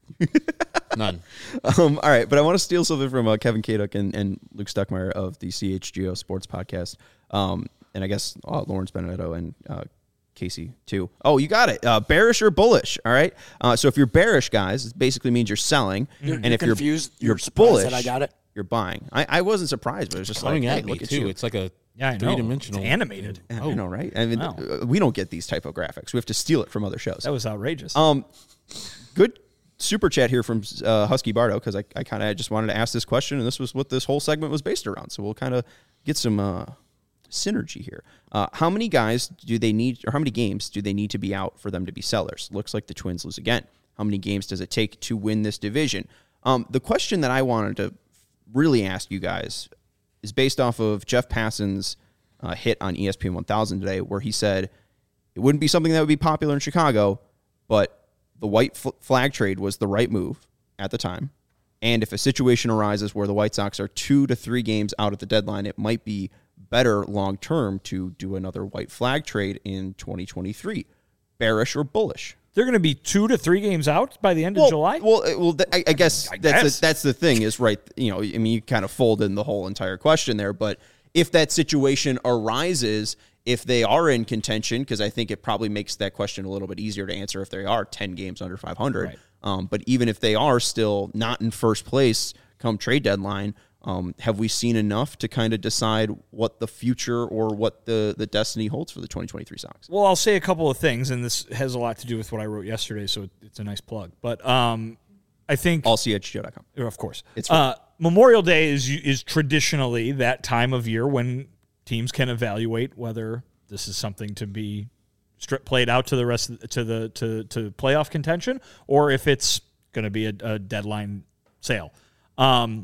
None. Um, all right, but I want to steal something from uh, Kevin Kaduk and, and Luke Stuckmeyer of the C H G O Sports Podcast, um, and I guess uh, Lawrence Benedetto and uh, Casey too. Oh, you got it. Uh, bearish or bullish? All right. Uh, so if you're bearish, guys, it basically means you're selling, You're- and you're if confused, you're you're you're surprised bullish, that I got it. You're buying. I, I wasn't surprised, but it was just Coming like, at hey, me look at too. you. It's like a yeah, I know. three dimensional. It's animated. I Oh. know, right? I mean, Wow. uh, we don't get these type of graphics. We have to steal it from other shows. That was outrageous. Um, good super chat here from uh, Husky Bardo because I, I kind of just wanted to ask this question, and this was what this whole segment was based around. So we'll kind of get some uh, synergy here. Uh, how many guys do they need, or how many games do they need to be out for them to be sellers? Looks like the Twins lose again. How many games does it take to win this division? Um, the question that I wanted to really ask you guys is based off of Jeff Passan's uh, hit on E S P N one thousand today, where he said it wouldn't be something that would be popular in Chicago, but the white fl- flag trade was the right move at the time. And if a situation arises where the White Sox are two to three games out at the deadline, it might be better long-term to do another white flag trade in twenty twenty-three. Bearish or bullish? They're going to be two to three games out by the end well, of July? Well, uh, well, I, I guess I that's guess. The, that's the thing is, right, you know, I mean, you kind of fold in the whole entire question there, but if that situation arises, if they are in contention, because I think it probably makes that question a little bit easier to answer if they are ten games under five hundred. Right. Um, but even if they are still not in first place come trade deadline, um, have we seen enough to kind of decide what the future or what the, the destiny holds for the twenty twenty-three Sox? Well, I'll say a couple of things, and this has a lot to do with what I wrote yesterday, so it's a nice plug. But um, I think... all c h g o dot com. Of course. It's uh, Memorial Day is is traditionally that time of year when teams can evaluate whether this is something to be strip played out to the rest of the, to the to to playoff contention, or if it's going to be a, a deadline sale. Um,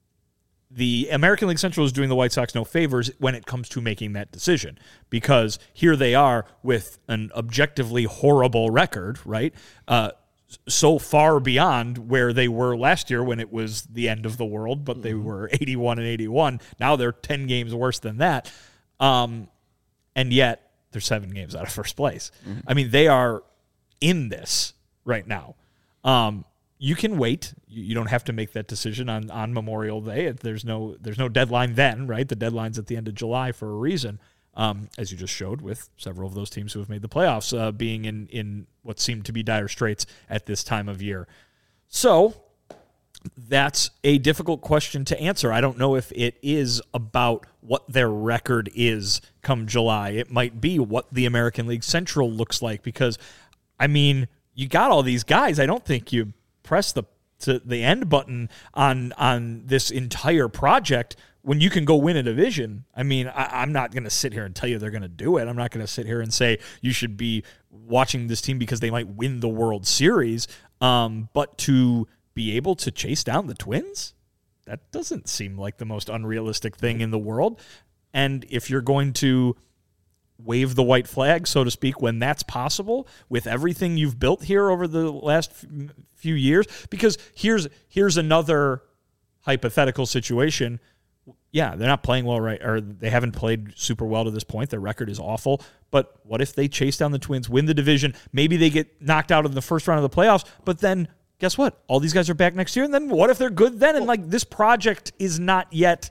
the American League Central is doing the White Sox no favors when it comes to making that decision, because here they are with an objectively horrible record, right? Uh, so far beyond where they were last year when it was the end of the world, but they were eighty-one and eighty-one. Now they're ten games worse than that. Um, and yet they're seven games out of first place. Mm-hmm. I mean, they are in this right now. Um, you can wait. You, you don't have to make that decision on, on Memorial Day. There's no there's no deadline then, right? The deadline's at the end of July for a reason, um, as you just showed with several of those teams who have made the playoffs uh, being in, in what seemed to be dire straits at this time of year. So that's a difficult question to answer. I don't know if it is about what their record is come July. It might be what the American League Central looks like, because, I mean, you got all these guys. I don't think you press the to the end button on on this entire project when you can go win a division. I mean, I, I'm not going to sit here and tell you they're going to do it. I'm not going to sit here and say you should be watching this team because they might win the World Series. Um, but to be able to chase down the Twins, that doesn't seem like the most unrealistic thing in the world. And if you're going to wave the white flag, so to speak, when that's possible with everything you've built here over the last few years, because here's here's another hypothetical situation. Yeah, they're not playing well, right? Or they haven't played super well to this point. Their record is awful. But what if they chase down the Twins, win the division? Maybe they get knocked out in the first round of the playoffs, but then guess what? All these guys are back next year, and then what if they're good then? And, like, this project is not yet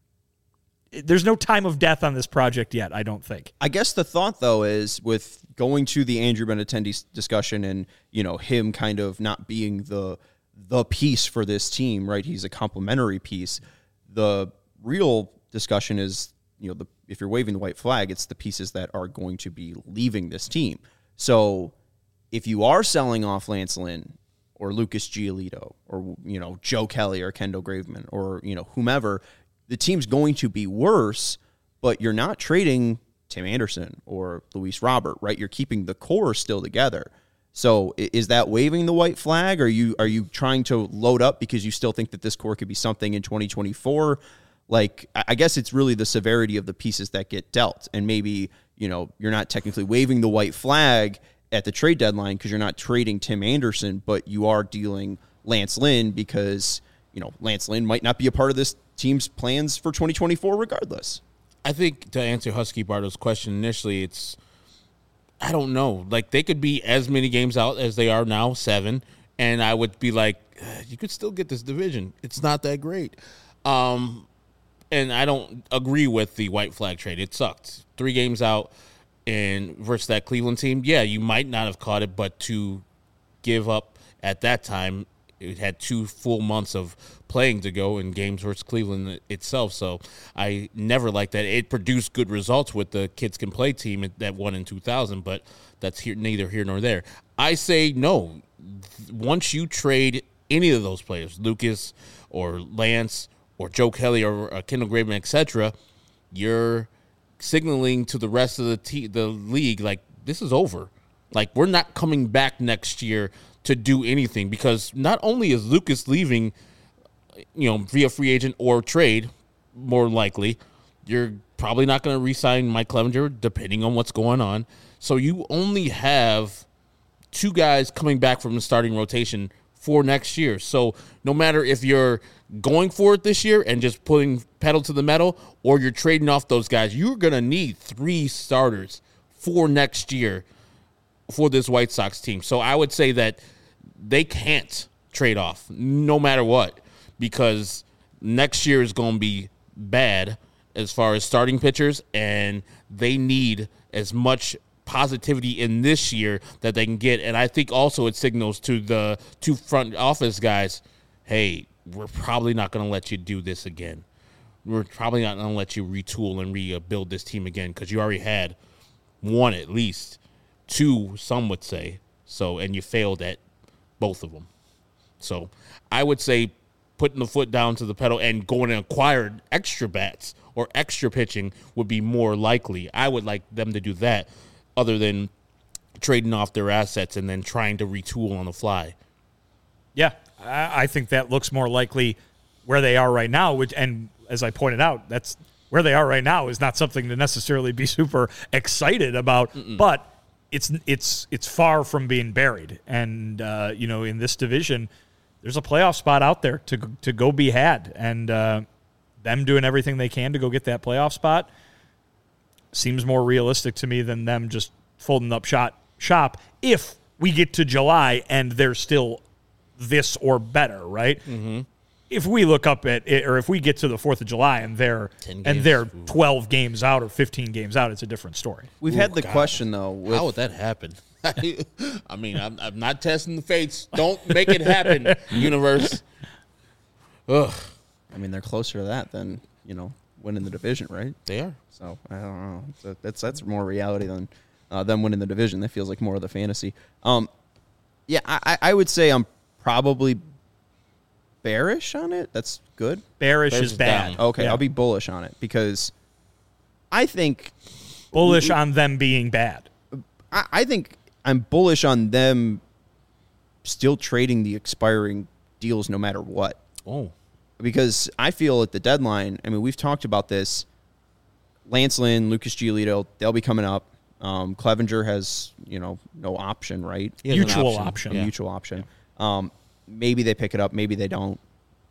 – there's no time of death on this project yet, I don't think. I guess the thought, though, is with going to the Andrew Benintendi discussion and, you know, him kind of not being the the piece for this team, right? He's a complementary piece. The real discussion is, you know, the if you're waving the white flag, it's the pieces that are going to be leaving this team. So if you are selling off Lance Lynn – or Lucas Giolito, or, you know, Joe Kelly or Kendall Graveman, or, you know, whomever, the team's going to be worse, but you're not trading Tim Anderson or Luis Robert, right? You're keeping the core still together. So is that waving the white flag? Are you are you trying to load up because you still think that this core could be something in twenty twenty-four? Like, I guess it's really the severity of the pieces that get dealt. And maybe, you know, you're not technically waving the white flag at the trade deadline because you're not trading Tim Anderson, but you are dealing Lance Lynn because, you know, Lance Lynn might not be a part of this team's plans for twenty twenty-four regardless. I think to answer Husky Bardo's question initially, it's, I don't know. Like, they could be as many games out as they are now, seven, and I would be like, you could still get this division. It's not that great. Um, and I don't agree with the white flag trade. It sucked. Three games out. And versus that Cleveland team, yeah, you might not have caught it, but to give up at that time, it had two full months of playing to go in games versus Cleveland itself. So I never liked that. It produced good results with the Kids Can Play team that won in two thousand, but that's here, neither here nor there. I say no. Once you trade any of those players, Lucas or Lance or Joe Kelly or uh, Kendall Graveman, et cetera, you're signaling to the rest of the te- the league, like, this is over. Like, we're not coming back next year to do anything, because not only is Lucas leaving, you know, via free agent or trade, more likely, you're probably not going to re-sign Mike Clevenger, depending on what's going on. So you only have two guys coming back from the starting rotation for next year. So no matter if you're going for it this year and just putting pedal to the metal, or you're trading off those guys, you're going to need three starters for next year for this White Sox team. So I would say that they can't trade off no matter what, because next year is going to be bad as far as starting pitchers, and they need as much positivity in this year that they can get. And I think also it signals to the two front office guys, hey, we're probably not going to let you do this again. We're probably not going to let you retool and rebuild this team again, because you already had one at least, two some would say, so, and you failed at both of them. So I would say putting the foot down to the pedal and going and acquiring extra bats or extra pitching would be more likely. I would like them to do that, other than trading off their assets and then trying to retool on the fly. Yeah, I I think that looks more likely where they are right now, which, and as I pointed out, that's where they are right now is not something to necessarily be super excited about, Mm-mm. but it's it's it's far from being buried. And uh, you know, in this division, there's a playoff spot out there to to go be had, and uh, them doing everything they can to go get that playoff spot seems more realistic to me than them just folding up shot shop if we get to July and they're still this or better, right? Mm-hmm. If we look up at it, or if we get to the fourth of July and they're and they're twelve games out or fifteen games out, it's a different story. We've Ooh, had the God. question though. With, How would that happen? I mean, I'm, I'm not testing the fates. Don't make it happen, universe. Ugh. I mean, they're closer to that than, you know, winning the division, right? They are. So I don't know. So that's that's more reality than uh, them winning the division. That feels like more of the fantasy. Um, yeah, I, I would say I'm probably bearish on it. That's good. Bearish, Bearish is is bad. down. Okay, Yeah. I'll be bullish on it because I think Bullish on them being bad. I, I think I'm bullish on them still trading the expiring deals no matter what. Oh. Because I feel at the deadline, I mean, we've talked about this. Lance Lynn, Lucas Giolito, they'll be coming up. Um, Clevenger has, you know, no option, right? He has an Mutual option. option. A Yeah. mutual option. Um, maybe they pick it up. Maybe they don't.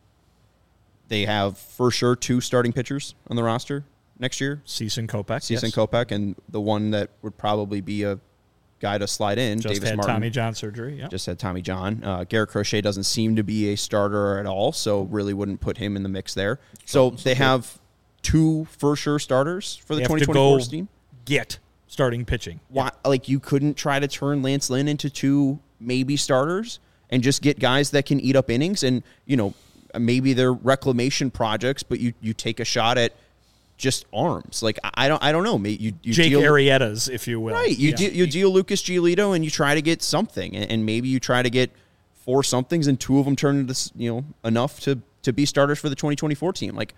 They have, for sure, two starting pitchers on the roster next year. Cease and Kopech. Cease and yes. Kopech, and the one that would probably be a guy to slide in, Just Davis had Martin. Tommy John surgery. Yeah. Just had Tommy John. Uh, Garrett Crochet doesn't seem to be a starter at all, so really wouldn't put him in the mix there. So they have two for sure starters for the They have twenty to twenty-four go team. get starting pitching. Why, like you couldn't try to turn Lance Lynn into two maybe starters and just get guys that can eat up innings, and you know maybe they're reclamation projects, but you you take a shot at just arms. Like I I don't I don't know. Maybe you, you Jake deal, Arrieta's, if you will. right? You Yeah. deal, you deal Lucas Giolito and you try to get something, and, and maybe you try to get four somethings, and two of them turn into this, you know enough to to be starters for the twenty twenty-four team. Like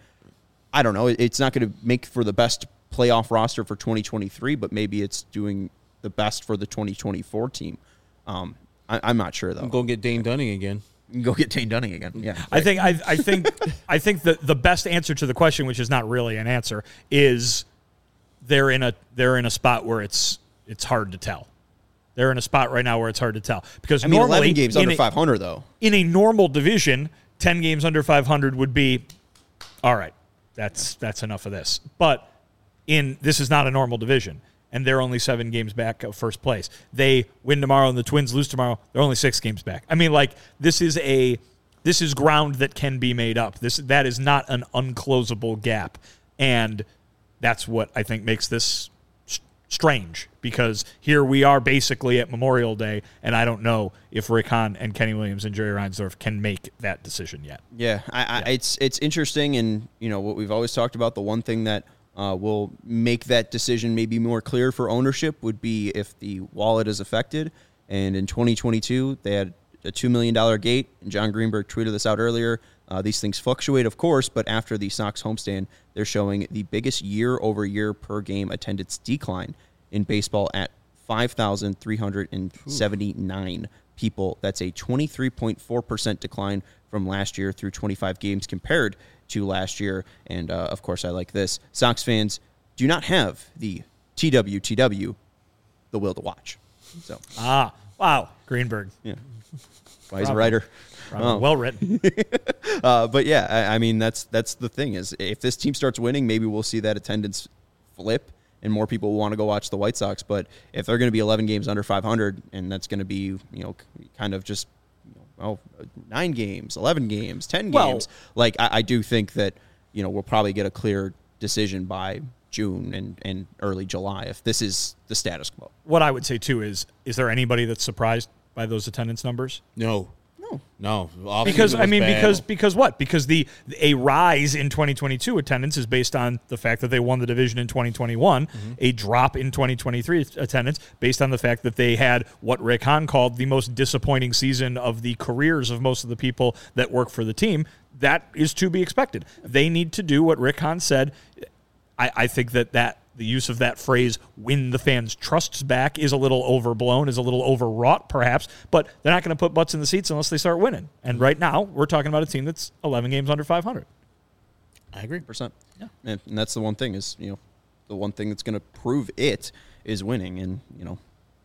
I don't know. It, it's not going to make for the best playoff roster for twenty twenty-three, but maybe it's doing the best for the twenty twenty-four team. Um, I, I'm not sure though. I'm going to get Dane Dunning again. You can go get Dane Dunning again. Yeah, I think I, I think I think the the best answer to the question, which is not really an answer, is they're in a they're in a spot where it's it's hard to tell. They're in a spot right now where it's hard to tell because I mean, normally eleven games in under a- five hundred though. in a normal division, ten games under five hundred would be all right. That's that's enough of this. But in this is not a normal division, and they're only seven games back of first place. They win tomorrow and the Twins lose tomorrow. They're only six games back. I mean, like this is a this is ground that can be made up. This that is not an unclosable gap, and that's what I think makes this s- strange. Because here we are basically at Memorial Day, and I don't know if Rick Hahn and Kenny Williams and Jerry Reinsdorf can make that decision yet. Yeah, I, I, it's it's interesting, and you know what we've always talked about. The one thing that uh, will make that decision maybe more clear for ownership would be if the wallet is affected. And in twenty twenty-two, they had a two million dollar gate, and John Greenberg tweeted this out earlier. Uh, these things fluctuate, of course, but after the Sox homestand, they're showing the biggest year-over-year per game attendance decline in baseball at five thousand three hundred seventy-nine people. That's a twenty-three point four percent decline from last year through twenty-five games compared to last year. And, uh, of course, I like this. Sox fans do not have the T W T W, the will to watch. So, Ah, wow, Greenberg. yeah. Why he's a writer. Oh. Well written. uh, but yeah, I, I mean that's that's the thing is if this team starts winning, maybe we'll see that attendance flip and more people will want to go watch the White Sox. But if they're going to be eleven games under five hundred, and that's going to be you know kind of just you know, oh, nine games, eleven games, ten well, games, like I, I do think that you know we'll probably get a clear decision by June and, and early July if this is the status quo. What I would say too is, is there anybody that's surprised by those attendance numbers? No. No, because I mean, bad. because because what? Because the a rise in twenty twenty-two attendance is based on the fact that they won the division in twenty twenty-one. Mm-hmm. A drop in twenty twenty-three attendance based on the fact that they had what Rick Hahn called the most disappointing season of the careers of most of the people that work for the team. That is to be expected. They need to do what Rick Hahn said. I, I think that that. The use of that phrase, win the fans' trusts back, is a little overblown, is a little overwrought, perhaps, but they're not going to put butts in the seats unless they start winning. And right now, we're talking about a team that's eleven games under five hundred. I agree. Percent. Yeah. And, and that's the one thing is, you know, the one thing that's going to prove it is winning. And, you know,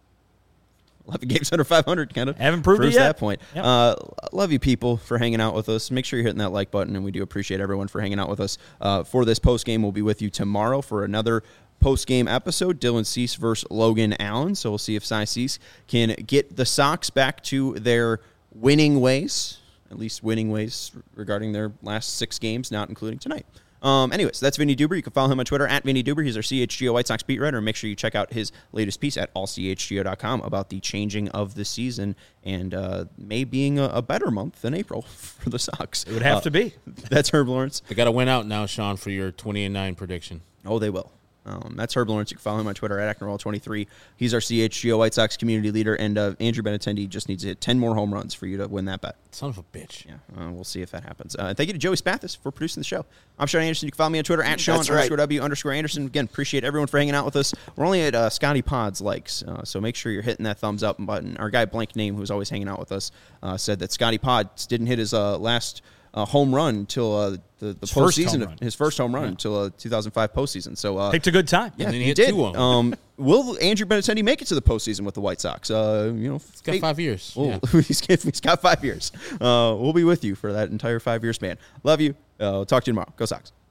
eleven games under five hundred kind of haven't proved proves it yet. that point. Yep. Uh, love you people for hanging out with us. Make sure you're hitting that like button, and we do appreciate everyone for hanging out with us. Uh, for this post game, we'll be with you tomorrow for another post game episode. Dylan Cease versus Logan Allen. So we'll see if Cy Cease can get the Sox back to their winning ways, at least winning ways regarding their last six games, not including tonight. Um, anyways, that's Vinny Duber. You can follow him on Twitter at Vinny Duber. He's our C H G O White Sox beat writer. Make sure you check out his latest piece at all c h g o dot com about the changing of the season and uh, May being a, a better month than April for the Sox. It would have uh, to be. That's Herb Lawrence. They got to win out now, Sean, for your twenty and nine prediction. Oh, they will. Um, that's Herb Lawrence. You can follow him on Twitter at Acknerall twenty-three. He's our C H G O White Sox community leader, and uh, Andrew Benintendi just needs to hit ten more home runs for you to win that bet. Son of a bitch. Yeah, uh, we'll see if that happens. Uh, thank you to Joey Spathis for producing the show. I'm Sean Anderson. You can follow me on Twitter at Sean right. underscore W underscore Anderson. Again, appreciate everyone for hanging out with us. We're only at uh, Scotty Pods likes, uh, so make sure you're hitting that thumbs up button. Our guy Blank Name, who's always hanging out with us, uh, said that Scotty Pods didn't hit his uh, last uh, home run until uh, the, the postseason, his first home run yeah. until uh, two thousand five postseason. So uh, picked a good time. Yeah, and then he, he hit did. Two of them. Um, will Andrew Benintendi make it to the postseason with the White Sox? Uh, you know, he's got five years. Well, yeah. he's, he's got five years. Uh, we'll be with you for that entire five year span. Love you. Uh, we'll talk to you tomorrow. Go Sox.